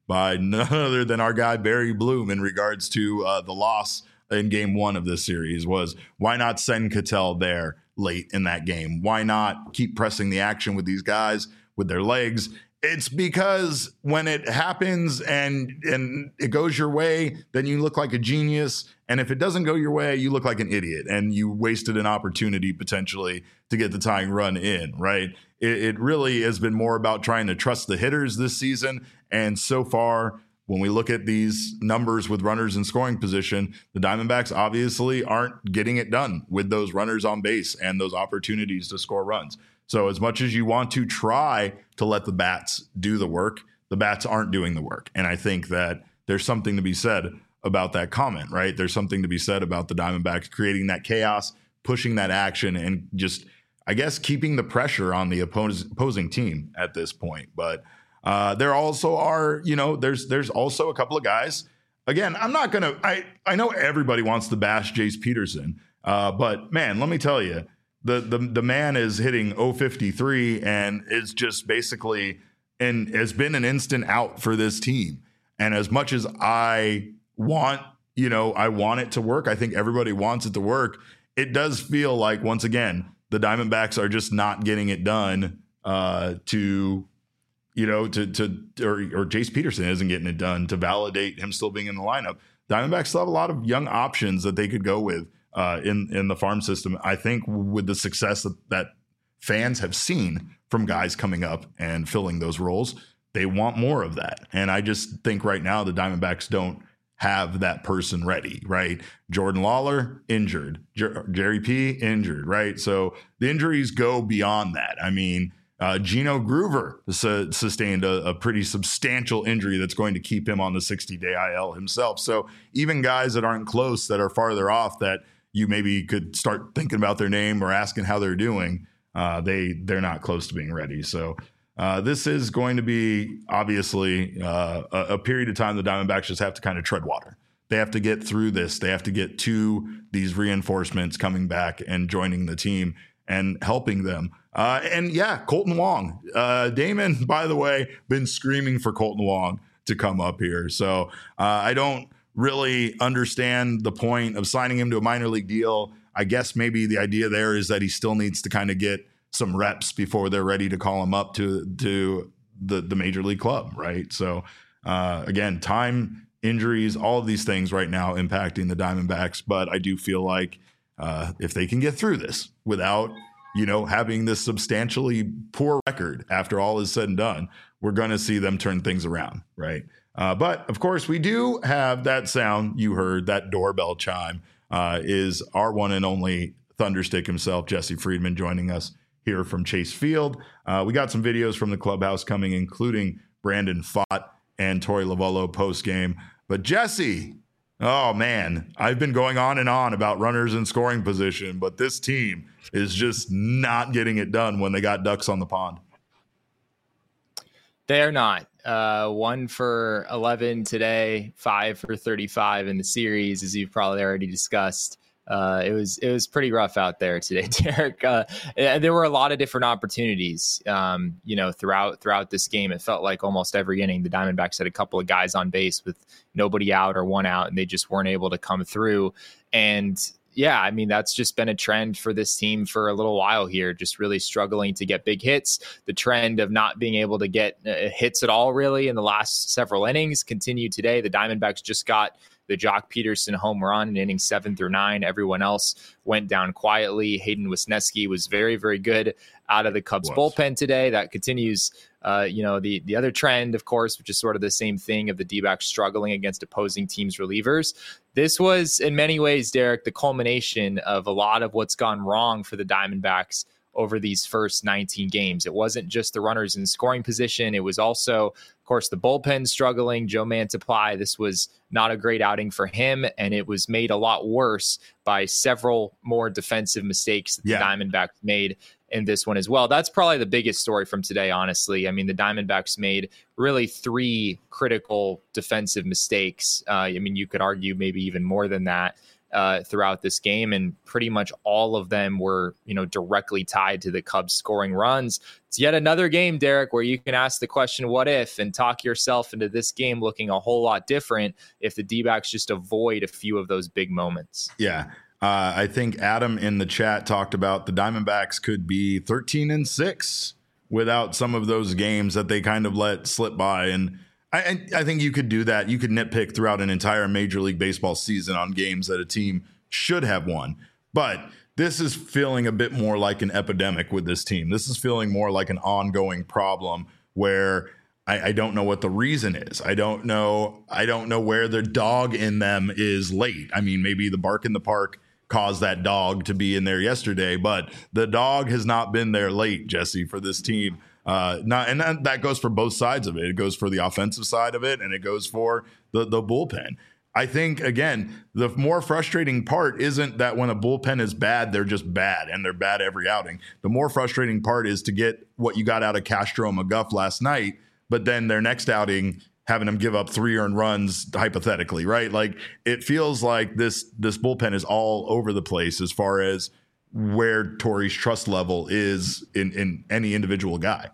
by none other than our guy Barry Bloom in regards to uh, the loss in game one of this series was, why not send Cattell there late in that game? Why not keep pressing the action with these guys with their legs? It's because when it happens and and it goes your way, then you look like a genius. And if it doesn't go your way, you look like an idiot and you wasted an opportunity potentially to get the tying run in, right? It, it really has been more about trying to trust the hitters this season. And so far, when we look at these numbers with runners in scoring position, the Diamondbacks obviously aren't getting it done with those runners on base and those opportunities to score runs. So as much as you want to try to let the bats do the work, the bats aren't doing the work. And I think that there's something to be said about that comment, right? There's something to be said about the Diamondbacks creating that chaos, pushing that action, and just, I guess, keeping the pressure on the oppos- opposing team at this point. But uh, there also are, you know, there's there's also a couple of guys. Again, I'm not going to, I I know everybody wants to bash Jace Peterson, uh, but man, let me tell you, The, the the man is hitting oh fifty-three and is just basically and has been an instant out for this team. And as much as I want, you know, I want it to work, I think everybody wants it to work. It does feel like, once again, the Diamondbacks are just not getting it done uh, to, you know, to to or, or Jace Peterson isn't getting it done to validate him still being in the lineup. Diamondbacks still have a lot of young options that they could go with Uh, in in the farm system. I think with the success that, that fans have seen from guys coming up and filling those roles, they want more of that. And I just think right now the Diamondbacks don't have that person ready, right? Jordan Lawler, injured. Jer- Jerry P, injured, right? So the injuries go beyond that. I mean, uh, Gino Groover su- sustained a, a pretty substantial injury that's going to keep him on the sixty-day I L himself. So even guys that aren't close, that are farther off, that you maybe could start thinking about their name or asking how they're doing, uh, they, they're not close to being ready. So uh, this is going to be obviously uh, a, a period of time the Diamondbacks just have to kind of tread water. They have to get through this. They have to get to these reinforcements coming back and joining the team and helping them. Uh, and yeah, Colton Wong. Uh, Damon, by the way, been screaming for Colton Wong to come up here. So uh, I don't really understand the point of signing him to a minor league deal. I guess maybe the idea there is that he still needs to kind of get some reps before they're ready to call him up to to the, the major league club, right? So uh, again, time, injuries, all of these things right now impacting the Diamondbacks. But I do feel like uh, if they can get through this without, you know, having this substantially poor record after all is said and done, we're going to see them turn things around, right? Uh, but, of course, we do have that sound you heard, that doorbell chime, uh, is our one and only Thunderstick himself, Jesse Friedman, joining us here from Chase Field. Uh, we got some videos from the clubhouse coming, including Brandon Pfaadt and Torey Lovullo post-game. But, Jesse, oh, man, I've been going on and on about runners in scoring position, but this team is just not getting it done when they got ducks on the pond. They're not. Uh, one for eleven today, five for thirty-five in the series, as you've probably already discussed. Uh, it was it was pretty rough out there today, Derek. Uh, there were a lot of different opportunities, um, you know, throughout throughout this game. It felt like almost every inning, the Diamondbacks had a couple of guys on base with nobody out or one out, and they just weren't able to come through. And yeah, I mean, that's just been a trend for this team for a little while here, just really struggling to get big hits. The trend of not being able to get uh, hits at all, really, in the last several innings continued today. The Diamondbacks just got the Jock Peterson home run in innings seven through nine. Everyone else went down quietly. Hayden Wesneski was very, very good out of the Cubs was. bullpen today. That continues, uh, you know, the, the other trend, of course, which is sort of the same thing of the D-backs struggling against opposing teams' relievers. This was, in many ways, Derek, the culmination of a lot of what's gone wrong for the Diamondbacks over these first nineteen games. It wasn't just the runners in scoring position. It was also, of course, the bullpen struggling. Joe Mantiply, this was not a great outing for him, and it was made a lot worse by several more defensive mistakes that yeah. the Diamondbacks made in this one as well. That's probably the biggest story from today, honestly. I mean, the Diamondbacks made really three critical defensive mistakes. Uh, I mean, you could argue maybe even more than that. uh, throughout this game, and pretty much all of them were, you know, directly tied to the Cubs scoring runs. It's yet another game, Derek, where you can ask the question, what if, and talk yourself into this game looking a whole lot different if the D-backs just avoid a few of those big moments. Yeah. Uh, I think Adam in the chat talked about the Diamondbacks could be thirteen and six without some of those games that they kind of let slip by. And I, I think you could do that. You could nitpick throughout an entire Major League Baseball season on games that a team should have won. But this is feeling a bit more like an epidemic with this team. This is feeling more like an ongoing problem where I, I don't know what the reason is. I don't know. I don't know where the dog in them is late. I mean, maybe the bark in the park caused that dog to be in there yesterday, but the dog has not been there late, Jesse, for this team. Uh, not, and that, that goes for both sides of it. It goes for the offensive side of it, and it goes for the, the bullpen. I think, again, the more frustrating part isn't that when a bullpen is bad, they're just bad, and they're bad every outing. The more frustrating part is to get what you got out of Castro and McGough last night, but then their next outing having them give up three earned runs hypothetically, right? Like, it feels like this this bullpen is all over the place as far as where Torey's trust level is in, in any individual guy.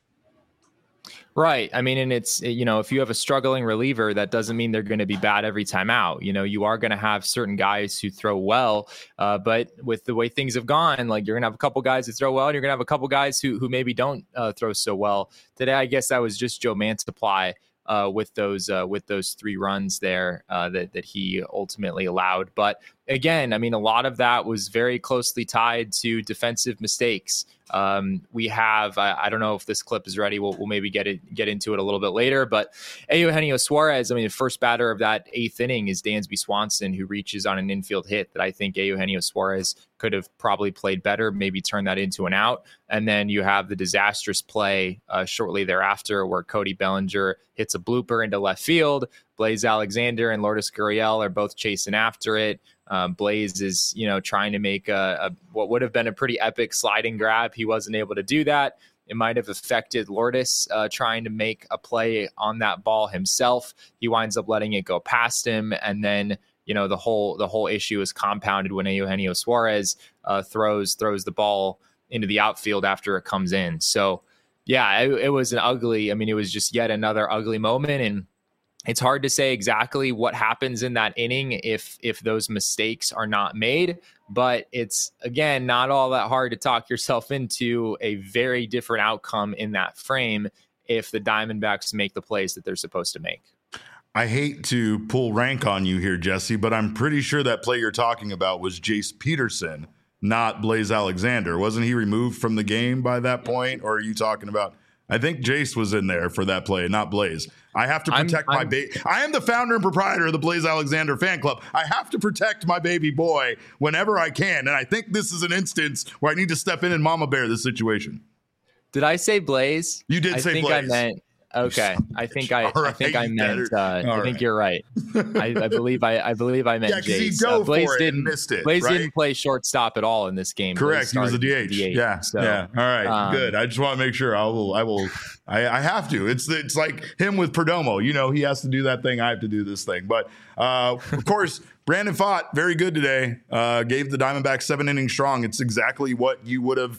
Right. I mean, and it's, you know, if you have a struggling reliever, that doesn't mean they're going to be bad every time out. You know, you are going to have certain guys who throw well, uh, but with the way things have gone, like, you're going to have a couple guys who throw well, and you're going to have a couple guys who who maybe don't uh, throw so well. Today, I guess that was just Joe Mantiply uh, with those uh, with those three runs there uh, that that he ultimately allowed. But again, I mean, a lot of that was very closely tied to defensive mistakes. Um, we have, I, I don't know if this clip is ready. We'll, we'll maybe get it, get into it a little bit later, but Eugenio Suarez, I mean, the first batter of that eighth inning is Dansby Swanson, who reaches on an infield hit that I think Eugenio Suarez could have probably played better, maybe turn that into an out. And then you have the disastrous play uh, shortly thereafter where Cody Bellinger hits a blooper into left field. Blaze Alexander and Lourdes Gurriel are both chasing after it. Um, Blaze is, you know, trying to make a, a what would have been a pretty epic sliding grab. He wasn't able to do that. It might have affected Lourdes uh, trying to make a play on that ball himself. He winds up letting it go past him, and then, you know, the whole the whole issue is compounded when Eugenio Suarez uh, throws throws the ball into the outfield after it comes in. So, yeah, it, it was an ugly. I mean, it was just yet another ugly moment, and it's hard to say exactly what happens in that inning if if those mistakes are not made, but it's, again, not all that hard to talk yourself into a very different outcome in that frame if the Diamondbacks make the plays that they're supposed to make. I hate to pull rank on you here, Jesse, but I'm pretty sure that play you're talking about was Jace Peterson, not Blaze Alexander. Wasn't he removed from the game by that point, or are you talking about... I think Jace was in there for that play, not Blaze. I have to protect I'm, my baby. I am the founder and proprietor of the Blaze Alexander fan club. I have to protect my baby boy whenever I can. And I think this is an instance where I need to step in and mama bear the situation. Did I say Blaze? You did I say think Blaze. I meant Okay, I think I, right, I think I meant. Uh, I right. think you're right. I, I believe I, I believe I meant yeah, Jace. He dove uh, Blaze for it didn't and missed it. Blaze right? didn't play shortstop at all in this game. Correct. He was a D H. D H yeah. So, yeah. All right. Um, good. I just want to make sure. I will. I will. I, I have to. It's it's like him with Perdomo. You know, he has to do that thing. I have to do this thing. But uh, of course, Brandon Pfaadt, very good today. Uh, gave the Diamondbacks seven innings strong. It's exactly what you would have.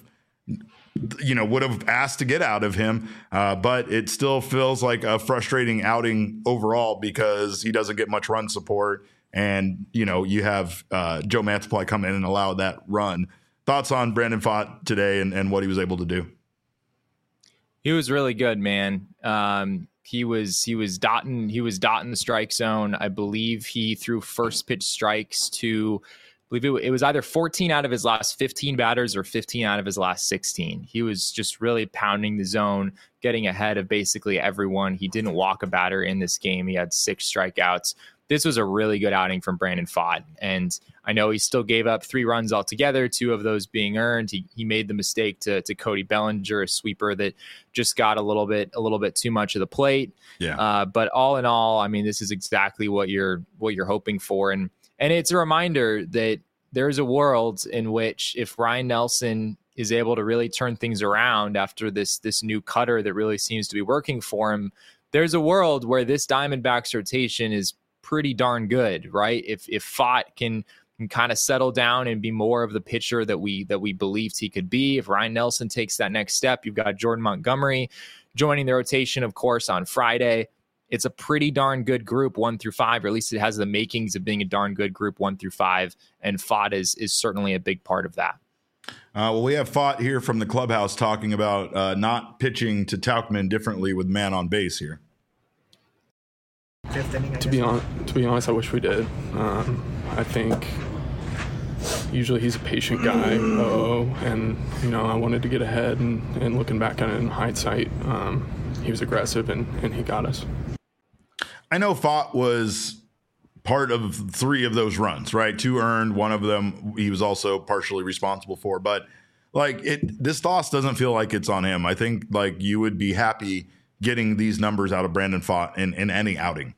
you know, would have asked to get out of him. Uh, but it still feels like a frustrating outing overall because he doesn't get much run support. And, you know, you have uh, Joe Mantiply come in and allow that run. Thoughts on Brandon Pfaadt today and, and what he was able to do? He was really good, man. Um, he was he was dotting he was dotting the strike zone. I believe he threw first pitch strikes to I believe it was either fourteen out of his last fifteen batters or fifteen out of his last sixteen. He was just really pounding the zone, getting ahead of basically everyone. He didn't walk a batter in this game. He had six strikeouts. This was a really good outing from Brandon Pfaadt. And I know he still gave up three runs altogether, two of those being earned. He he made the mistake to to Cody Bellinger, a sweeper that just got a little bit a little bit too much of the plate. Yeah. Uh, but all in all, I mean, this is exactly what you're what you're hoping for. And And it's a reminder that there's a world in which if Ryan Nelson is able to really turn things around after this this new cutter that really seems to be working for him, there's a world where this Diamondbacks rotation is pretty darn good, right? If if Pfaadt can can kind of settle down and be more of the pitcher that we that we believed he could be. If Ryan Nelson takes that next step, you've got Jordan Montgomery joining the rotation, of course, on Friday. It's a pretty darn good group, one through five, or at least it has the makings of being a darn good group, one through five. And Pfaadt is is certainly a big part of that. Uh, well, we have Pfaadt here from the clubhouse talking about uh, not pitching to Tauchman differently with man on base here. Fifth inning, I To guess. be on, to be honest, I wish we did. Um, I think usually he's a patient guy, oh, and you know I wanted to get ahead, and, and looking back on it in hindsight, um, he was aggressive and, and he got us. I know Pfaadt was part of three of those runs, right? Two earned, one of them he was also partially responsible for. But like it, this loss doesn't feel like it's on him. I think like you would be happy getting these numbers out of Brandon Pfaadt in, in any outing.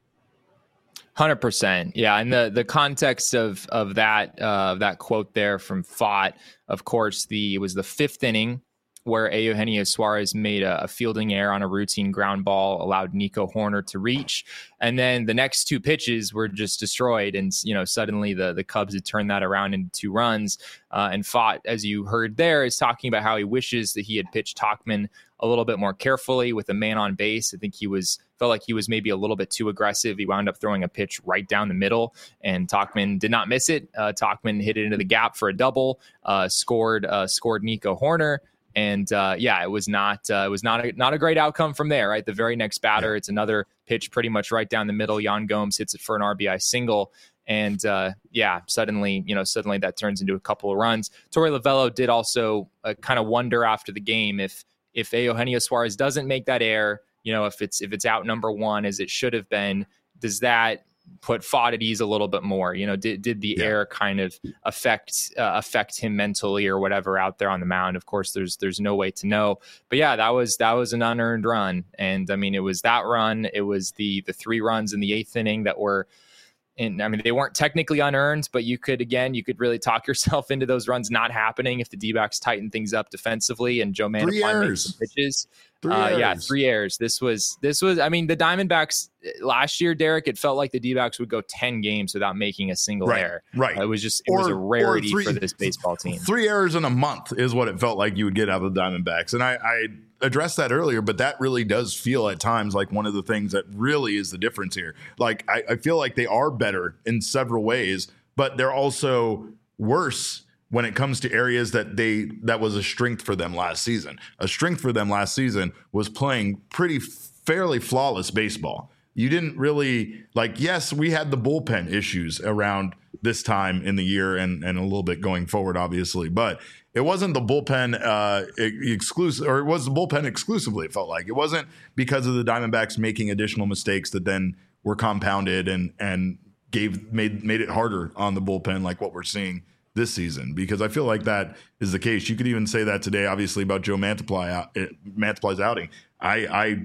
one hundred percent. Yeah. And the, the context of, of that, uh, that quote there from Pfaadt, of course, the, it was the fifth inning where Eugenio Suarez made a, a fielding error on a routine ground ball, allowed Nico Hoerner to reach. And then the next two pitches were just destroyed. And, you know, suddenly the, the Cubs had turned that around into two runs. Uh, and Pfaadt, as you heard there, is talking about how he wishes that he had pitched Tauchman a little bit more carefully with a man on base. I think he was felt like he was maybe a little bit too aggressive. He wound up throwing a pitch right down the middle, and Tauchman did not miss it. Uh, Tauchman hit it into the gap for a double, uh, scored uh, scored Nico Hoerner. And uh, yeah, it was not uh, it was not a, not a great outcome from there. Right, the very next batter, it's another pitch pretty much right down the middle. Yan Gomes hits it for an R B I single, and uh, yeah, suddenly you know suddenly that turns into a couple of runs. Torey Lovullo did also uh, kind of wonder after the game if if Eugenio Suarez doesn't make that error, you know, if it's if it's out number one as it should have been, does that put Pfaadt at ease a little bit more? You know, did did the yeah. error kind of affect uh, affect him mentally or whatever out there on the mound? Of course, there's there's no way to know. But yeah, that was that was an unearned run, and I mean, it was that run. It was the the three runs in the eighth inning that were. And I mean, they weren't technically unearned, but you could, again, you could really talk yourself into those runs not happening if the D-backs tighten things up defensively and Joe Mantiply makes some pitches. Three uh, errors. Yeah, three errors. This was, this was, I mean, the Diamondbacks last year, Derek, it felt like the D-backs would go ten games without making a single right, error. Right. It was just, it or, was a rarity three, for this baseball team. Three errors in a month is what it felt like you would get out of the Diamondbacks. And I, I addressed that earlier, but that really does feel at times like one of the things that really is the difference here. Like, I, I feel like they are better in several ways, but they're also worse when it comes to areas that they that was a strength for them last season. A strength for them last season was playing pretty fairly flawless baseball. You didn't really like, yes, we had the bullpen issues around this time in the year and, and a little bit going forward, obviously, but it wasn't the bullpen uh, exclusive, or it was the bullpen exclusively. It felt like it wasn't because of the Diamondbacks making additional mistakes that then were compounded and and gave made made it harder on the bullpen, like what we're seeing this season. Because I feel like that is the case. You could even say that today, obviously, about Joe Mantiply out, Mantiply's outing. I, I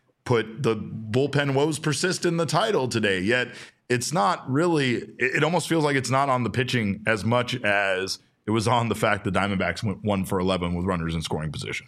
put the bullpen woes persist in the title today, yet it's not really. It, it almost feels like it's not on the pitching as much as it was on the fact the Diamondbacks went one for eleven with runners in scoring position.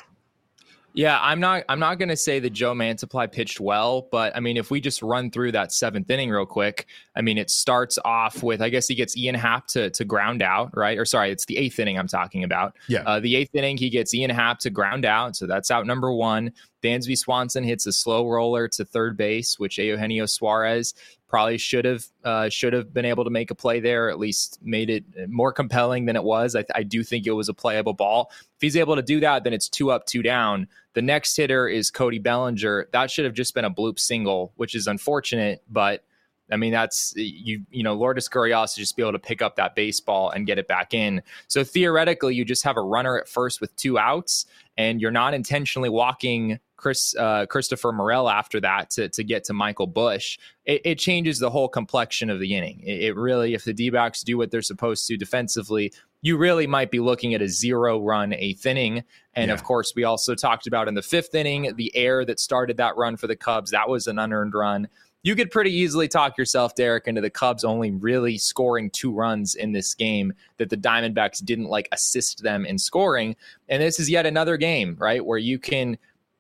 Yeah, I'm not I'm not going to say that Joe Mantiply pitched well, but I mean, if we just run through that seventh inning real quick, I mean, it starts off with, I guess he gets Ian Happ to, to ground out, right? Or sorry, it's the eighth inning I'm talking about. Yeah. Uh, the eighth inning, he gets Ian Happ to ground out, so that's out number one. Dansby Swanson hits a slow roller to third base, which Eugenio Suarez probably should have uh, should have been able to make a play there, at least made it more compelling than it was. I, I do think it was a playable ball. If he's able to do that, then it's two up, two down. The next hitter is Cody Bellinger. That should have just been a bloop single, which is unfortunate, but I mean, that's, you you know, Lourdes Gurriel to just be able to pick up that baseball and get it back in. So theoretically, you just have a runner at first with two outs, and you're not intentionally walking Chris uh, Christopher Morel after that to, to get to Michael Busch. It, it changes the whole complexion of the inning. It, it really, if the D-backs do what they're supposed to defensively, you really might be looking at a zero-run eighth inning. And, yeah. of course, we also talked about in the fifth inning, the air that started that run for the Cubs. That was an unearned run. You could pretty easily talk yourself, Derek, into the Cubs only really scoring two runs in this game, that the Diamondbacks didn't like assist them in scoring. And this is yet another game, right, where you can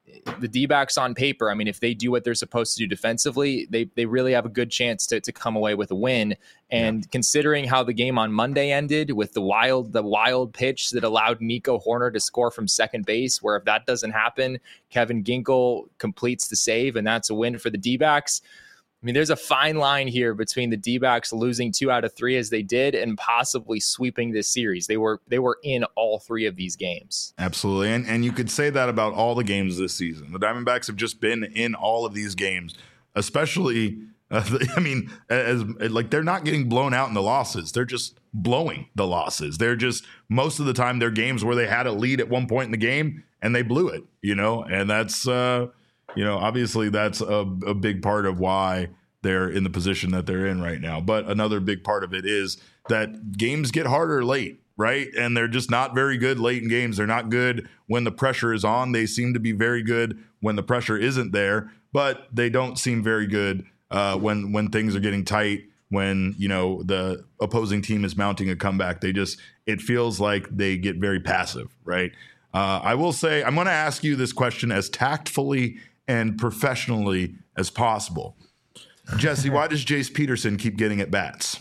the D-backs on paper, I mean, if they do what they're supposed to do defensively, they they really have a good chance to to come away with a win. And yeah. considering how the game on Monday ended with the wild the wild pitch that allowed Nico Horner to score from second base, where if that doesn't happen, Kevin Ginkel completes the save, and that's a win for the D-backs. I mean, there's a fine line here between the D-backs losing two out of three as they did and possibly sweeping this series. They were they were in all three of these games. Absolutely. And and you could say that about all the games this season. The Diamondbacks have just been in all of these games, especially, uh, I mean, as like they're not getting blown out in the losses. They're just blowing the losses. They're just, most of the time, they're games where they had a lead at one point in the game and they blew it, you know, and that's, uh, you know, obviously that's a, a big part of why they're in the position that they're in right now. But another big part of it is that games get harder late, right? And they're just not very good late in games. They're not good when the pressure is on. They seem to be very good when the pressure isn't there, but they don't seem very good uh, when when things are getting tight, when, you know, the opposing team is mounting a comeback. They just, it feels like they get very passive, right? Uh, I will say, I'm going to ask you this question as tactfully and professionally as possible. Jesse, why does Jace Peterson keep getting at bats?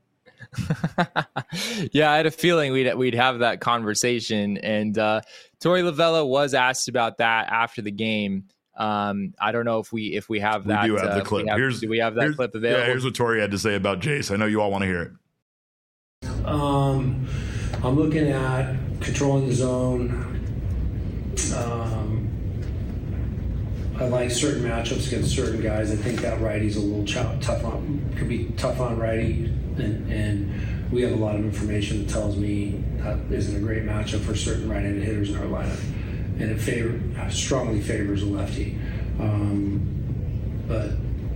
Yeah, I had a feeling we'd we'd have that conversation, and uh, Torey Lovullo was asked about that after the game. Um, I don't know if we if we have that. We do have uh, the clip. Have, here's, do we have that clip available? Yeah, here's what Torey had to say about Jace. I know you all want to hear it. Um, I'm looking at controlling the zone. Um, I like certain matchups against certain guys. I think that righty's a little ch- tough on, could be tough on righty, and, and we have a lot of information that tells me that isn't a great matchup for certain right-handed hitters in our lineup, and it favor, strongly favors a lefty. Um, but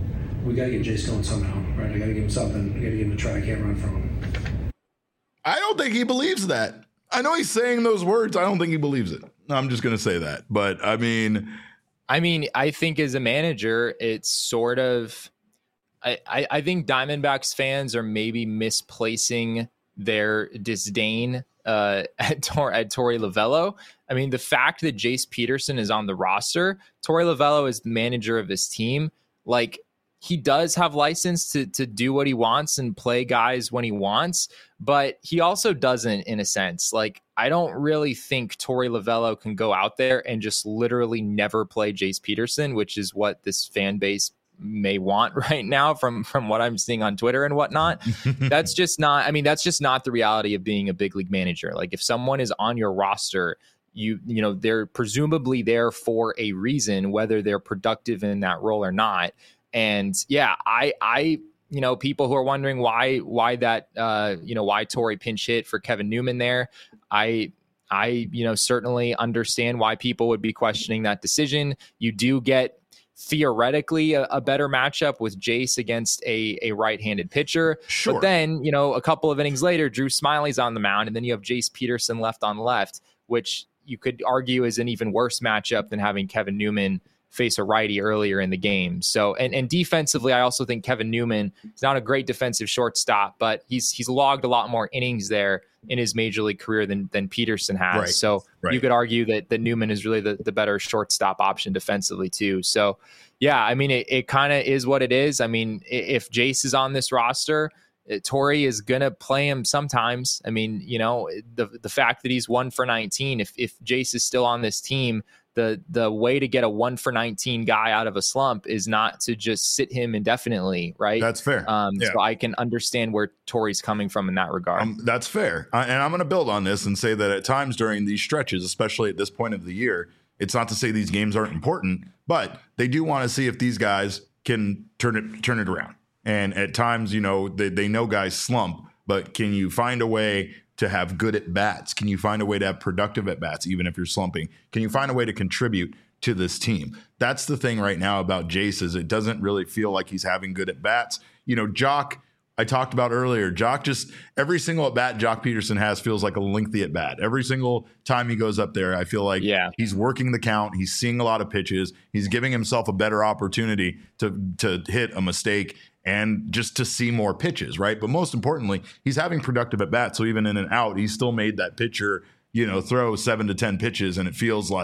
we got to get Jace going somehow, right? I got to give him something. I got to give him a try. I can't run from him. I don't think he believes that. I know he's saying those words. I don't think he believes it. I'm just going to say that. But I mean, I mean, I think as a manager, it's sort of, I, I, I think Diamondbacks fans are maybe misplacing their disdain uh, at, Tor, at Torey Lovullo. I mean, the fact that Jace Peterson is on the roster, Torey Lovullo is the manager of this team. Like, he does have license to to do what he wants and play guys when he wants, but he also doesn't, in a sense. Like, I don't really think Torey Lovullo can go out there and just literally never play Jace Peterson, which is what this fan base may want right now from, from what I'm seeing on Twitter and whatnot. That's just not, I mean, that's just not the reality of being a big league manager. Like, if someone is on your roster, you, you know, they're presumably there for a reason, whether they're productive in that role or not. And yeah, I, I, you know, people who are wondering why, why that, uh, you know, why Torey pinch hit for Kevin Newman there. I, I, you know, certainly understand why people would be questioning that decision. You do get theoretically a, a better matchup with Jace against a, a right-handed pitcher. Sure. But then, you know, a couple of innings later, Drew Smiley's on the mound, and then you have Jace Peterson left on left, which you could argue is an even worse matchup than having Kevin Newman face a righty earlier in the game. So, and, and defensively, I also think Kevin Newman is not a great defensive shortstop, but he's he's logged a lot more innings there in his major league career than than Peterson has. Right. So right. you could argue that, that Newman is really the, the better shortstop option defensively too. So yeah, I mean, it, it kind of is what it is. I mean, if Jace is on this roster, Torey is going to play him sometimes. I mean, you know, the the fact that he's one for nineteen, if if Jace is still on this team, the the way to get a one for nineteen guy out of a slump is not to just sit him indefinitely, right? That's fair. Um, yeah. So I can understand where Torey's coming from in that regard. Um, that's fair. Uh, and I'm going to build on this and say that at times during these stretches, especially at this point of the year, it's not to say these games aren't important, but they do want to see if these guys can turn it turn it around. And at times, you know, they, they know guys slump, but can you find a way to have good at bats? Can you find a way to have productive at bats, even if you're slumping? Can you find a way to contribute to this team? That's the thing right now about Jace, is it doesn't really feel like he's having good at bats. You know, Jock, I talked about earlier, Jock just, every single at bat Jock Peterson has feels like a lengthy at bat. Every single time he goes up there, I feel like yeah. he's working the count. He's seeing a lot of pitches. He's giving himself a better opportunity to, to hit a mistake and just to see more pitches, right? But most importantly, he's having productive at bats. So even in and out, he still made that pitcher, you know, throw seven to ten pitches, and it feels like,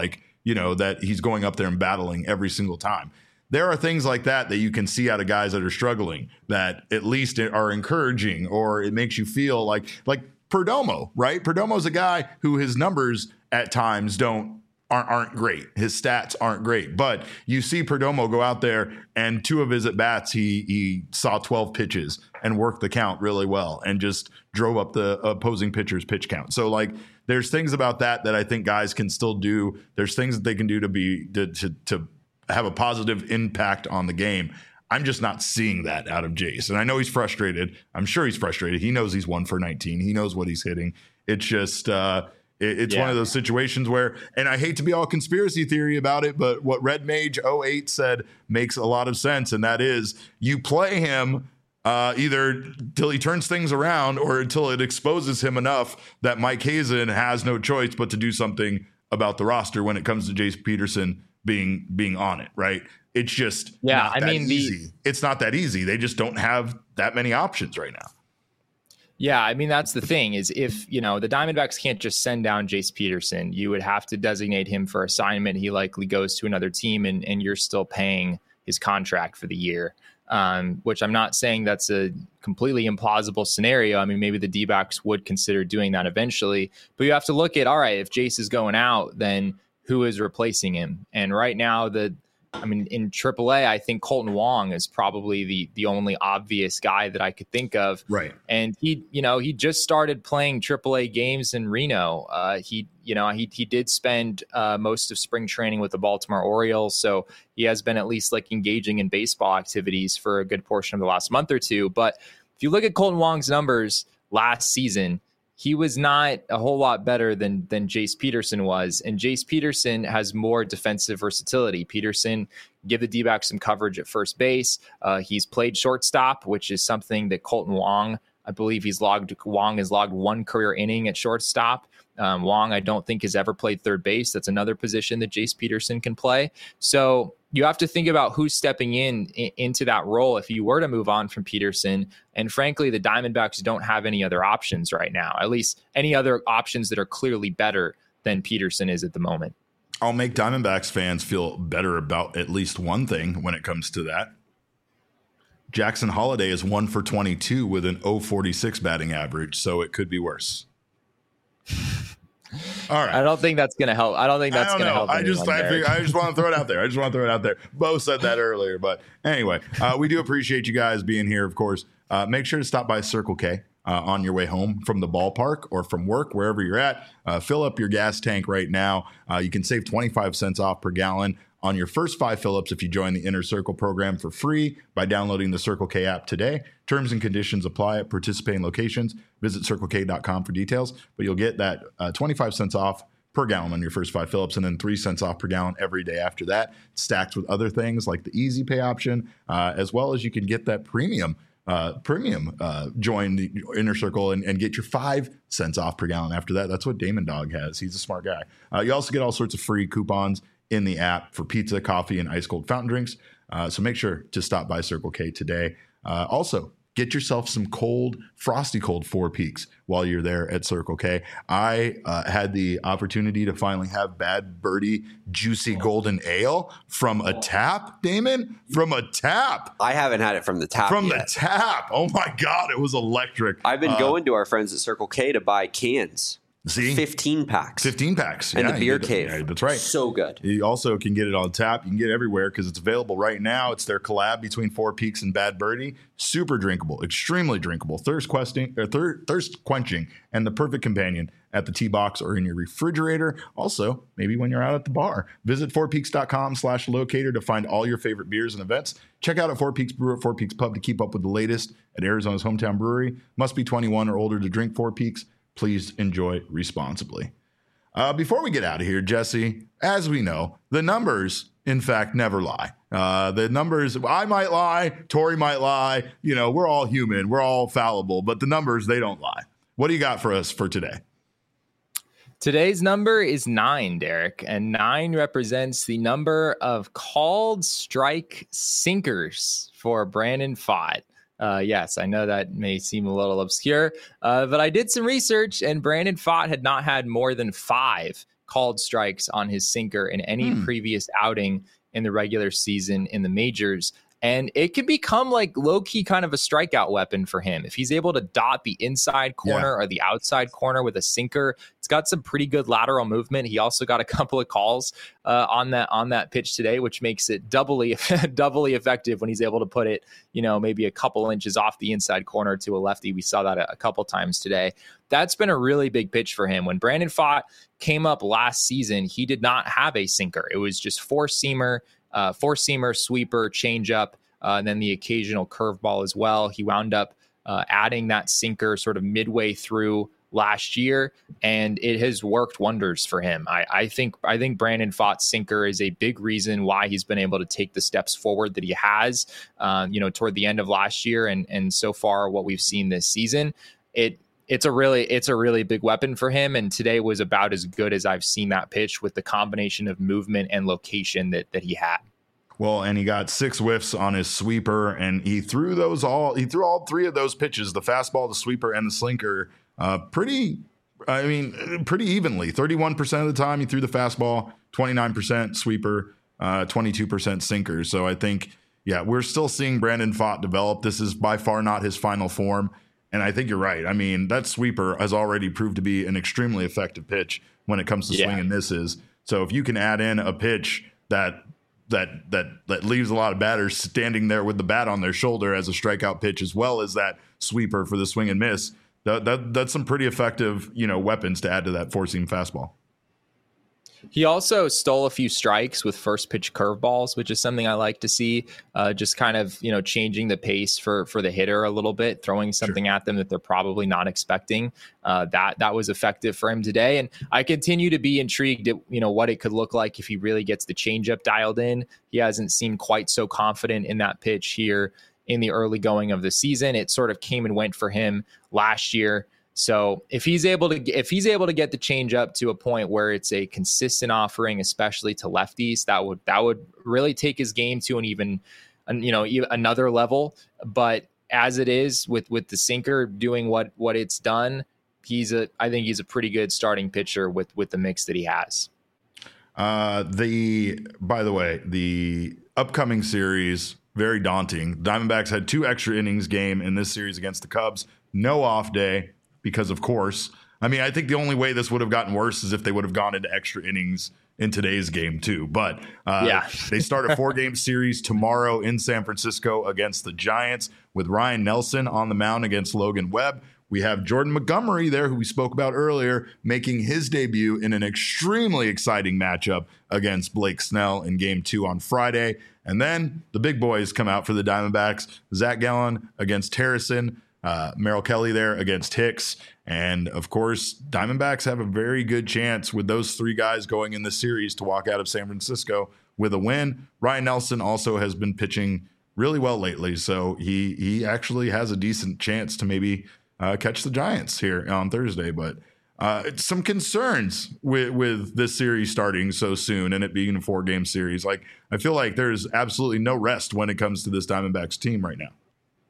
you know, that he's going up there and battling every single time. There are things like that that you can see out of guys that are struggling that at least are encouraging, or it makes you feel like like Perdomo, right? Perdomo's a guy who his numbers at times don't aren't, aren't great. His stats aren't great, but you see Perdomo go out there and two of his at bats, he he saw twelve pitches and worked the count really well and just drove up the opposing pitcher's pitch count. So like there's things about that that I think guys can still do. There's things that they can do to be to to, to have a positive impact on the game. I'm just not seeing that out of Jace. And I know he's frustrated. I'm sure he's frustrated. He knows he's one for nineteen. He knows what he's hitting. It's just, uh, it, it's yeah. one of those situations where, and I hate to be all conspiracy theory about it, but what Red Mage oh eight said makes a lot of sense. And that is you play him uh, either till he turns things around or until it exposes him enough that Mike Hazen has no choice but to do something about the roster when it comes to Jace Peterson being being on it, right? It's just yeah, not I that mean, easy. The, it's not that easy. They just don't have that many options right now. Yeah, I mean, that's the thing is if, you know, the Diamondbacks can't just send down Jace Peterson, you would have to designate him for assignment. He likely goes to another team and, and you're still paying his contract for the year, um, which I'm not saying that's a completely implausible scenario. I mean, maybe the D-backs would consider doing that eventually, but you have to look at, all right, if Jace is going out, then who is replacing him? And right now, the, I mean, in triple A, I think Colton Wong is probably the the only obvious guy that I could think of. Right. And he, you know, he just started playing triple A games in Reno. Uh, he, you know, he he did spend uh, most of spring training with the Baltimore Orioles, so he has been at least like engaging in baseball activities for a good portion of the last month or two. But if you look at Colton Wong's numbers last season, he was not a whole lot better than than Jace Peterson was. And Jace Peterson has more defensive versatility. Peterson give the D-backs some coverage at first base. Uh, he's played shortstop, which is something that Colton Wong, I believe he's logged, Wong has logged one career inning at shortstop. Um, Wong, I don't think has ever played third base. That's another position that Jace Peterson can play. So you have to think about who's stepping in, in into that role if you were to move on from Peterson. And frankly, the Diamondbacks don't have any other options right now, at least any other options that are clearly better than Peterson is at the moment. I'll make Diamondbacks fans feel better about at least one thing when it comes to that. Jackson Holiday is one for twenty-two with an oh forty-six batting average, so it could be worse. All right. I don't think that's going to help. I don't think that's going to help. I just, I, figure, I just want to throw it out there. I just want to throw it out there. Bo said that earlier, but anyway, uh, we do appreciate you guys being here. Of course, uh, make sure to stop by Circle K uh, on your way home from the ballpark or from work, wherever you're at. Uh, fill up your gas tank right now. Uh, you can save twenty-five cents off per gallon on your first five fill-ups if you join the Inner Circle program for free by downloading the Circle K app today. Terms and conditions apply at participating locations. Visit circle k dot com for details, but you'll get that uh, twenty-five cents off per gallon on your first five fill-ups and then three cents off per gallon every day after that, stacked with other things like the Easy Pay option, uh, as well as you can get that premium uh, premium uh, join the Inner Circle and, and get your five cents off per gallon after that. That's what Damon Dog has. He's a smart guy. Uh, you also get all sorts of free coupons in the app for pizza, coffee, and ice cold fountain drinks. Uh, so make sure to stop by Circle K today. Uh, also, get yourself some cold, frosty cold Four Peaks while you're there at Circle K. I uh, had the opportunity to finally have Bad Birdie Juicy Golden Ale from a tap, Damon, from a tap. I haven't had it from the tap From yet. the tap. Oh my God, it was electric. I've been uh, going to our friends at Circle K to buy cans. See? fifteen packs. fifteen packs. And yeah, the beer you get, cave. Yeah, that's right. So good. You also can get it on tap. You can get it everywhere because it's available right now. It's their collab between Four Peaks and Bad Birdie. Super drinkable, extremely drinkable, thirst questing, or thir- thirst quenching, and the perfect companion at the tee box or in your refrigerator. Also, maybe when you're out at the bar. Visit four peaks dot com slash locator to find all your favorite beers and events. Check out at Four Peaks Brew at Four Peaks Pub to keep up with the latest at Arizona's hometown brewery. Must be twenty-one or older to drink Four Peaks. Please enjoy responsibly. Uh, before we get out of here, Jesse, as we know, the numbers, in fact, never lie. Uh, the numbers, I might lie, Tori might lie. You know, we're all human. We're all fallible. But the numbers, they don't lie. What do you got for us for today? Today's number is nine, Derek, and nine represents the number of called strike sinkers for Brandon Pfaadt. Uh, yes, I know that may seem a little obscure, uh, but I did some research, and Brandon Pfaadt had not had more than five called strikes on his sinker in any Hmm. previous outing in the regular season in the majors. And it can become like low-key kind of a strikeout weapon for him. If he's able to dot the inside corner Yeah. or the outside corner with a sinker, it's got some pretty good lateral movement. He also got a couple of calls uh, on that on that pitch today, which makes it doubly doubly effective when he's able to put it, you know, maybe a couple inches off the inside corner to a lefty. We saw that a, a couple times today. That's been a really big pitch for him. When Brandon Pfaadt came up last season, he did not have a sinker. It was just four-seamer, Uh, four-seamer, sweeper, changeup, uh, and then the occasional curveball as well. He wound up uh, adding that sinker sort of midway through last year, and it has worked wonders for him. I, I think I think Brandon Pfaadt's sinker is a big reason why he's been able to take the steps forward that he has. Uh, you know, toward the end of last year, and and so far what we've seen this season, it. It's a really it's a really big weapon for him, and today was about as good as I've seen that pitch with the combination of movement and location that that he had. Well, and he got six whiffs on his sweeper, and he threw those all. He threw all three of those pitches: the fastball, the sweeper, and the slinker. Uh, pretty, I mean, pretty evenly. Thirty-one percent of the time he threw the fastball, twenty-nine percent sweeper, uh, twenty-two percent sinker. So I think, yeah, we're still seeing Brandon Pfaadt develop. This is by far not his final form. And I think you're right. I mean, that sweeper has already proved to be an extremely effective pitch when it comes to Yeah. swing and misses. So if you can add in a pitch that that that that leaves a lot of batters standing there with the bat on their shoulder as a strikeout pitch, as well as that sweeper for the swing and miss, that, that that's some pretty effective, you know, weapons to add to that four-seam fastball. He also stole a few strikes with first pitch curveballs, which is something I like to see. Uh, just kind of, you know, changing the pace for for the hitter a little bit, throwing something sure. at them that they're probably not expecting. Uh, that that was effective for him today, and I continue to be intrigued at, you know, what it could look like if he really gets the changeup dialed in. He hasn't seemed quite so confident in that pitch here in the early going of the season. It sort of came and went for him last year. So if he's able to if he's able to get the change up to a point where it's a consistent offering, especially to lefties, that would that would really take his game to an even, you know, another level. But as it is with with the sinker doing what what it's done, he's a I think he's a pretty good starting pitcher with with the mix that he has. Uh, the by the way, the upcoming series, very daunting. Diamondbacks had two extra innings game in this series against the Cubs. No off day. Because, of course, I mean, I think the only way this would have gotten worse is if they would have gone into extra innings in today's game, too. But uh, yeah. They start a four-game series tomorrow in San Francisco against the Giants with Ryan Nelson on the mound against Logan Webb. We have Jordan Montgomery there, who we spoke about earlier, making his debut in an extremely exciting matchup against Blake Snell in game two on Friday. And then the big boys come out for the Diamondbacks. Zach Gallen against Harrison. Uh, Merrill Kelly there against Hicks. And, of course, Diamondbacks have a very good chance with those three guys going in the series to walk out of San Francisco with a win. Ryan Nelson also has been pitching really well lately, so he he actually has a decent chance to maybe uh, catch the Giants here on Thursday. But uh, some concerns with, with this series starting so soon and it being a four-game series. Like, I feel like there's absolutely no rest when it comes to this Diamondbacks team right now.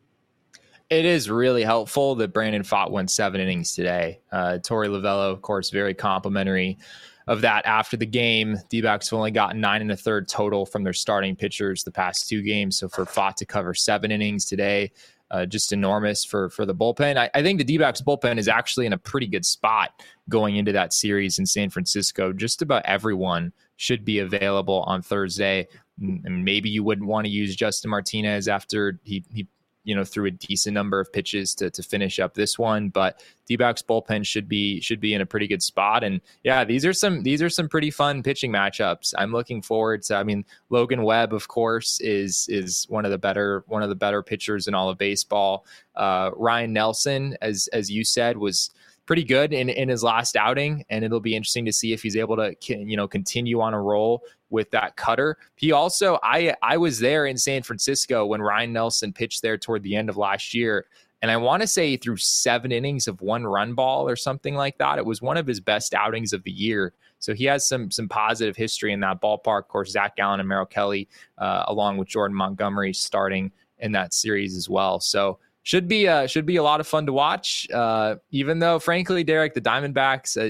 It is really helpful that Brandon Pfaadt went seven innings today. Uh, Torey Lovullo, of course, very complimentary of that after the game. D-backs have only gotten nine and a third total from their starting pitchers the past two games. So for Pfaadt to cover seven innings today, uh, just enormous for, for the bullpen. I, I think the D-backs bullpen is actually in a pretty good spot going into that series in San Francisco. Just about everyone should be available on Thursday. And maybe you wouldn't want to use Justin Martinez after he, he you know, threw a decent number of pitches to to finish up this one, but D-backs bullpen should be should be in a pretty good spot. And yeah, these are some these are some pretty fun pitching matchups. I'm looking forward to. I mean, Logan Webb, of course, is is one of the better one of the better pitchers in all of baseball. Uh, Ryan Nelson, as as you said, was pretty good in, in his last outing, and it'll be interesting to see if he's able to, you know, continue on a roll with that cutter. He also, I I was there in San Francisco when Ryan Nelson pitched there toward the end of last year, and I want to say he threw seven innings of one run ball or something like that. It was one of his best outings of the year. So he has some some positive history in that ballpark. Of course, Zach Gallen and Merrill Kelly, uh, along with Jordan Montgomery, starting in that series as well. So should be uh, should be a lot of fun to watch. Uh, even though, frankly, Derek, the Diamondbacks, uh,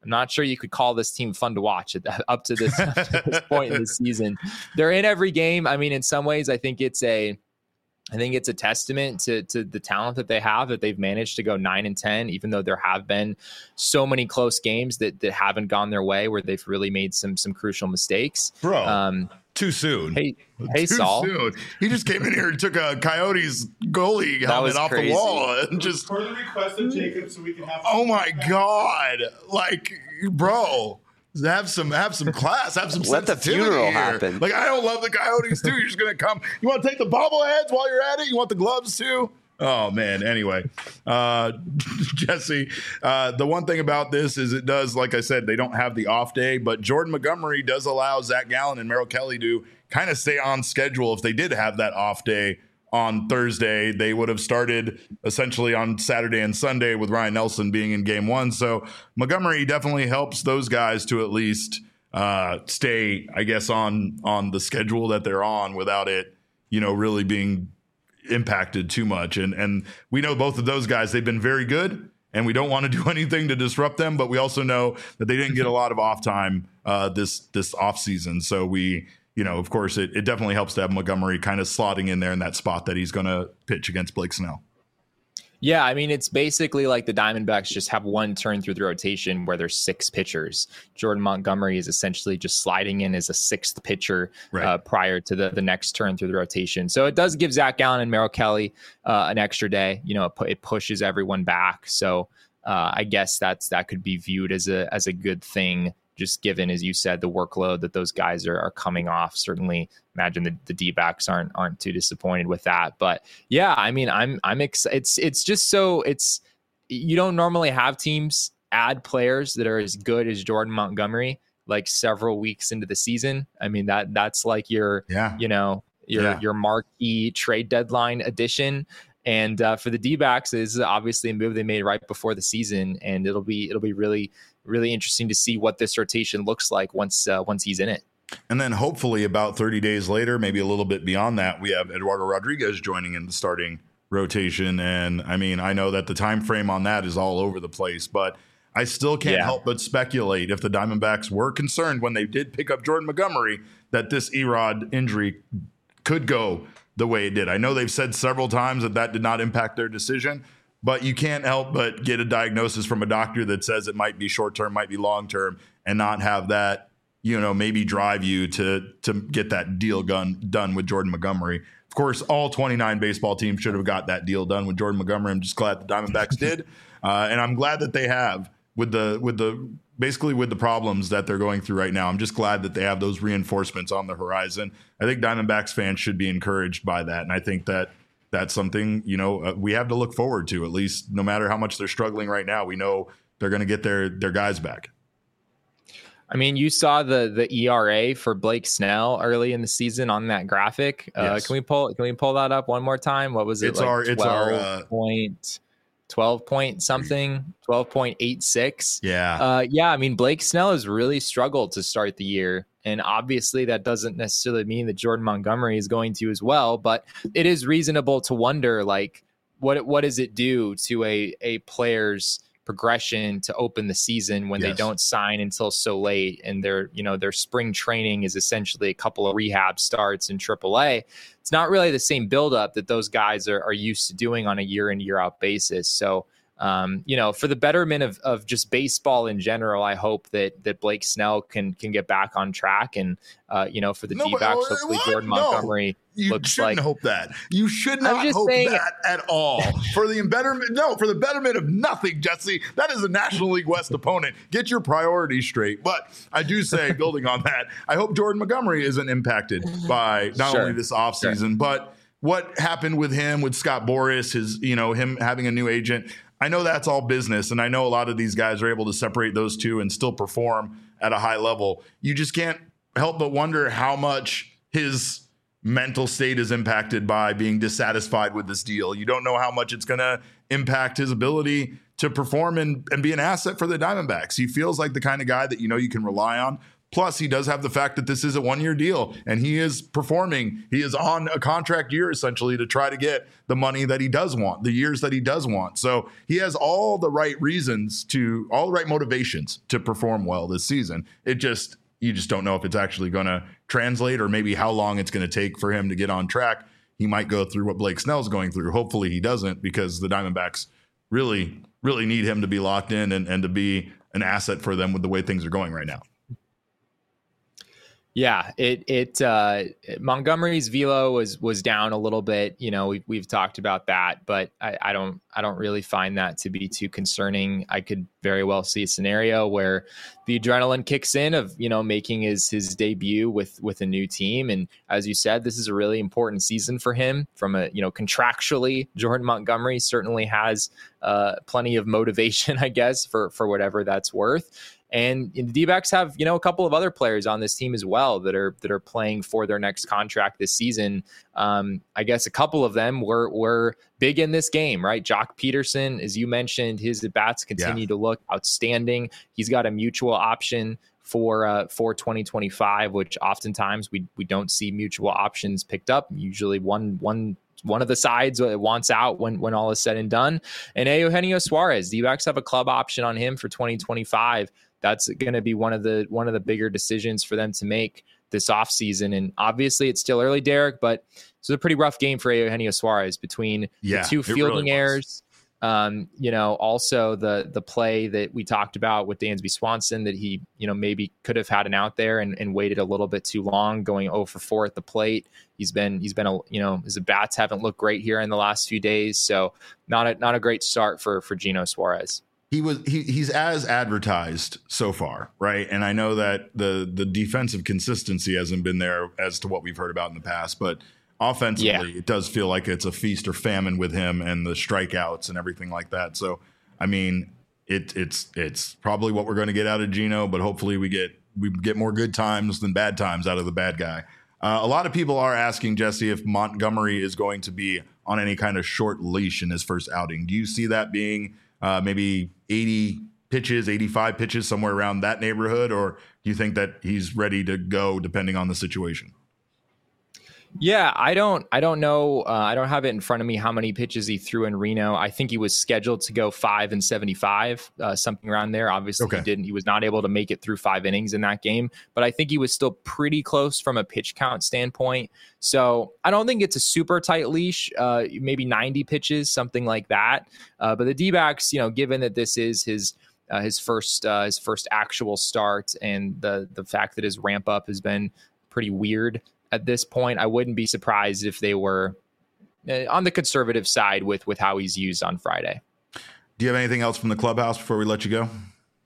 I'm not sure you could call this team fun to watch at that, up to this, up to this point in the season. They're in every game. I mean, in some ways, I think it's a, I think it's a testament to to the talent that they have, that they've managed to go nine and ten, even though there have been so many close games that that haven't gone their way, where they've really made some some crucial mistakes. Bro, um, too soon. Hey, hey, too Saul. Soon. He just came in here and took a Coyotes goalie helmet off crazy. the wall and just. For the request of Jacob, so we can have. Oh my God! Like, bro. Have some, have some class. Have some. Let the funeral here. happen. Like, I don't love the Coyotes too. You're just gonna come. You want to take the bobbleheads while you're at it? You want the gloves too? Oh man. Anyway, uh, Jesse, uh, the one thing about this is it does, like I said, they don't have the off day, but Jordan Montgomery does allow Zach Gallen and Merrill Kelly to kind of stay on schedule. If they did have that off day on Thursday, they would have started essentially on Saturday and Sunday with Ryan Nelson being in game one. So Montgomery definitely helps those guys to at least uh, stay, I guess, on on the schedule that they're on without it, you know, really being impacted too much. And and we know both of those guys, they've been very good, and we don't want to do anything to disrupt them, but we also know that they didn't get a lot of off time uh, this this off season. So we, you know, of course, it, it definitely helps to have Montgomery kind of slotting in there in that spot that he's going to pitch against Blake Snell. Yeah, I mean, it's basically like the Diamondbacks just have one turn through the rotation where there's six pitchers. Jordan Montgomery is essentially just sliding in as a sixth pitcher right. uh, prior to the, the next turn through the rotation. So it does give Zach Gallen and Merrill Kelly uh, an extra day. You know, it, pu- it pushes everyone back. So uh, I guess that's that could be viewed as a as a good thing, just given, as you said, the workload that those guys are, are coming off. Certainly imagine the, the D-backs aren't aren't too disappointed with that. But yeah, I mean, I'm I'm excited. It's it's just so it's you don't normally have teams add players that are as good as Jordan Montgomery like several weeks into the season. I mean, that that's like your yeah. you know your yeah. your marquee trade deadline addition. And uh, for the D-backs, is obviously a move they made right before the season, and it'll be it'll be really really interesting to see what this rotation looks like once uh, once he's in it. And then hopefully about thirty days later, maybe a little bit beyond that, we have Eduardo Rodriguez joining in the starting rotation. And I mean, I know that the time frame on that is all over the place, but I still can't Yeah. help but speculate if the Diamondbacks were concerned when they did pick up Jordan Montgomery that this Erod injury could go the way it did. I know they've said several times that that did not impact their decision, but you can't help but get a diagnosis from a doctor that says it might be short-term, might be long-term, and not have that, you know, maybe drive you to to get that deal done, done with Jordan Montgomery. Of course, all twenty-nine baseball teams should have got that deal done with Jordan Montgomery. I'm just glad the Diamondbacks did, uh, and I'm glad that they have with the with the basically with the problems that they're going through right now. I'm just glad that they have those reinforcements on the horizon. I think Diamondbacks fans should be encouraged by that, and I think that that's something, you know, uh, we have to look forward to. At least, no matter how much they're struggling right now, we know they're going to get their their guys back. I mean, you saw the the E R A for Blake Snell early in the season on that graphic. Uh, Yes. Can we pull Can we pull that up one more time? What was it? It's like our- it's our, uh, twelve point twelve point something, twelve point eight six. Yeah. Uh, yeah, I mean, Blake Snell has really struggled to start the year. And obviously that doesn't necessarily mean that Jordan Montgomery is going to as well, but it is reasonable to wonder, like, what what does it do to a, a player's progression to open the season when Yes. they don't sign until so late, and their, you know, their spring training is essentially a couple of rehab starts in triple A. It's not really the same buildup that those guys are, are used to doing on a year in, year out basis. So, um, you know, for the betterment of, of just baseball in general, I hope that that Blake Snell can can get back on track, and uh, you know, for the No, but- D-backs, hopefully what? Jordan No. Montgomery You looks shouldn't like. hope that. You should I'm not just hope saying- that at all. For the betterment, no, for the betterment of nothing, Jesse. That is a National League West opponent. Get your priorities straight. But I do say, building on that, I hope Jordan Montgomery isn't impacted by not Sure. only this offseason, Sure. but what happened with him, with Scott Boras, his, you know, him having a new agent. I know that's all business, and I know a lot of these guys are able to separate those two and still perform at a high level. You just can't help but wonder how much his mental state is impacted by being dissatisfied with this deal. You don't know how much it's going to impact his ability to perform and, and be an asset for the Diamondbacks. He feels like the kind of guy that, you know, you can rely on. Plus, he does have the fact that this is a one-year deal, and he is performing. He is on a contract year, essentially, to try to get the money that he does want, the years that he does want. So he has all the right reasons to, all the right motivations to perform well this season. It just, you just don't know if it's actually going to translate, or maybe how long it's going to take for him to get on track. He might go through what Blake Snell's going through. Hopefully he doesn't, because the Diamondbacks really, really need him to be locked in and, and to be an asset for them with the way things are going right now. Yeah, it it uh, Montgomery's velo was was down a little bit. You know, we've we've talked about that, but I, I don't I don't really find that to be too concerning. I could very well see a scenario where the adrenaline kicks in of, you know, making his his debut with with a new team, and as you said, this is a really important season for him. From a, you know, contractually, Jordan Montgomery certainly has uh, plenty of motivation, I guess, for for whatever that's worth. And the D-backs have, you know, a couple of other players on this team as well that are that are playing for their next contract this season. Um, I guess a couple of them were were big in this game, right? Jock Peterson, as you mentioned, his at-bats continue yeah. to look outstanding. He's got a mutual option for uh, for twenty twenty-five, which oftentimes we we don't see mutual options picked up. Usually one one. One of the sides wants out when, when all is said and done. And Eugenio Suarez, the D-backs have a club option on him for twenty twenty-five. That's going to be one of the one of the bigger decisions for them to make this offseason. And obviously it's still early, Derek, but it's a pretty rough game for Eugenio Suarez between yeah, the two fielding really errors. Um, you know, also the the play that we talked about with Dansby Swanson, that he, you know, maybe could have had an out there and, and waited a little bit too long, going oh for four at the plate. He's been he's been a, you know, his bats haven't looked great here in the last few days, so not a not a great start for for Gino Suarez. He was he, he's as advertised so far, right? And I know that the the defensive consistency hasn't been there as to what we've heard about in the past, but offensively, yeah. it does feel like it's a feast or famine with him and the strikeouts and everything like that. So, I mean, it, it's it's probably what we're going to get out of Gino, but hopefully we get we get more good times than bad times out of the bad guy. Uh, a lot of people are asking, Jesse, if Montgomery is going to be on any kind of short leash in his first outing. Do you see that being uh, maybe eighty pitches, eighty-five pitches, somewhere around that neighborhood, or do you think that he's ready to go depending on the situation? Yeah, I don't I don't know. Uh, I don't have it in front of me how many pitches he threw in Reno. I think he was scheduled to go five and seventy-five, uh, something around there. Obviously, okay. he didn't. He was not able to make it through five innings in that game, but I think he was still pretty close from a pitch count standpoint. So I don't think it's a super tight leash, uh, maybe ninety pitches, something like that. Uh, but the D-backs, you know, given that this is his uh, his first uh, his first actual start, and the the fact that his ramp up has been pretty weird at this point, I wouldn't be surprised if they were uh, on the conservative side with with how he's used on Friday. Do you have anything else from the clubhouse before we let you go?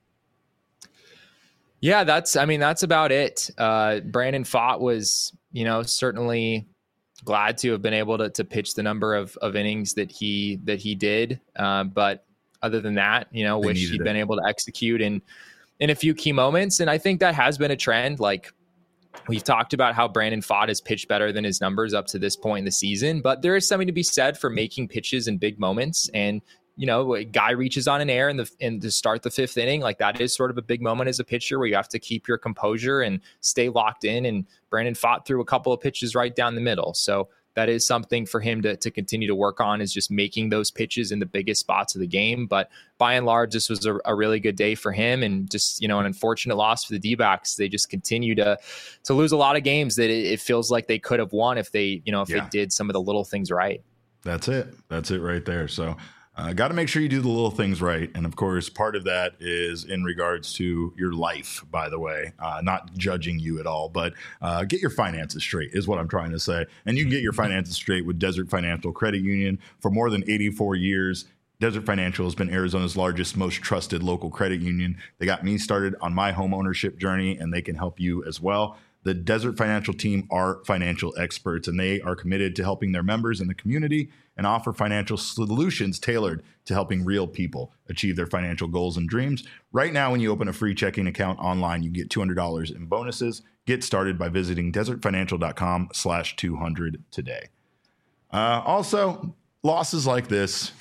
Yeah, that's, I mean, that's about it. Uh, Brandon Pfaadt was, you know, certainly glad to have been able to to pitch the number of, of innings that he that he did. Uh, but other than that, you know, they wish he'd it. been able to execute in in a few key moments. And I think that has been a trend. Like, we've talked about how Brandon Pfaadt has pitched better than his numbers up to this point in the season, but there is something to be said for making pitches in big moments. And, you know, a guy reaches on an air in the in to start the fifth inning, like that is sort of a big moment as a pitcher where you have to keep your composure and stay locked in. And Brandon Pfaadt threw a couple of pitches right down the middle. So that is something for him to, to continue to work on, is just making those pitches in the biggest spots of the game. But by and large, this was a, a really good day for him, and just, you know, an unfortunate loss for the D-backs. They just continue to to lose a lot of games that it, it feels like they could have won if they, you know, if yeah. they did some of the little things right. That's it. That's it right there. So uh, got to make sure you do the little things right. And of course, part of that is in regards to your life, by the way, uh, not judging you at all, but uh, get your finances straight is what I'm trying to say. And you can get your finances straight with Desert Financial Credit Union. For more than eighty-four years, Desert Financial has been Arizona's largest, most trusted local credit union. They got me started on my home ownership journey, and they can help you as well. The Desert Financial team are financial experts, and they are committed to helping their members in the community and offer financial solutions tailored to helping real people achieve their financial goals and dreams. Right now, when you open a free checking account online, you get two hundred dollars in bonuses. Get started by visiting desertfinancial.com slash 200 today. Uh, also, losses like this,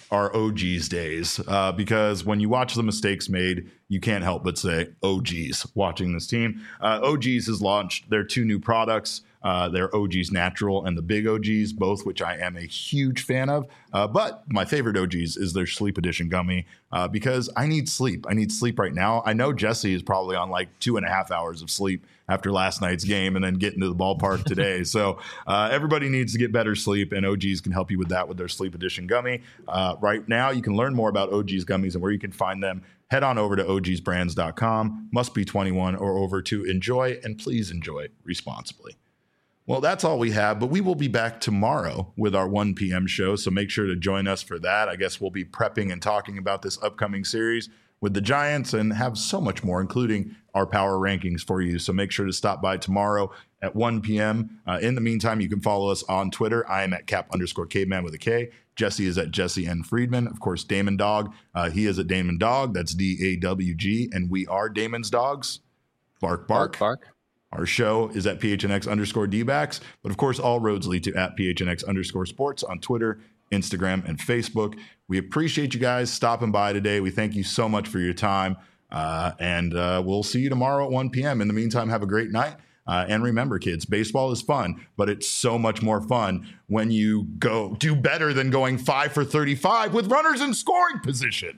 are O G's days uh, because when you watch the mistakes made, you can't help but say, oh, geez, watching this team. Uh, O G's has launched their two new products. Uh, their O G's Natural and the Big O G's, both which I am a huge fan of. Uh, but my favorite O G's is their Sleep Edition gummy uh, because I need sleep. I need sleep right now. I know Jesse is probably on like two and a half hours of sleep after last night's game and then getting to the ballpark today. So uh, everybody needs to get better sleep, and O G's can help you with that with their Sleep Edition gummy. Uh, right now, you can learn more about O G's gummies and where you can find them. Head on over to O Gs brands dot com. Must be twenty-one or over to enjoy, and please enjoy responsibly. Well, that's all we have, but we will be back tomorrow with our one p.m. show, so make sure to join us for that. I guess we'll be prepping and talking about this upcoming series with the Giants and have so much more, including our power rankings for you. So make sure to stop by tomorrow at one p.m. Uh, in the meantime, you can follow us on Twitter. I am at cap underscore caveman with a K. Jesse is at Jesse N. Friedman. Of course, Damon Dog. Uh, he is at Damon Dog. That's D A W G. And we are Damon's Dogs. Bark, bark. Bark, bark. Our show is at P H N X underscore D-backs. But of course, all roads lead to at P H N X underscore sports on Twitter, Instagram, and Facebook. We appreciate you guys stopping by today. We thank you so much for your time. Uh, and uh, we'll see you tomorrow at one p.m. In the meantime, have a great night. Uh, and remember, kids, baseball is fun, but it's so much more fun when you go do better than going five for thirty-five with runners in scoring position.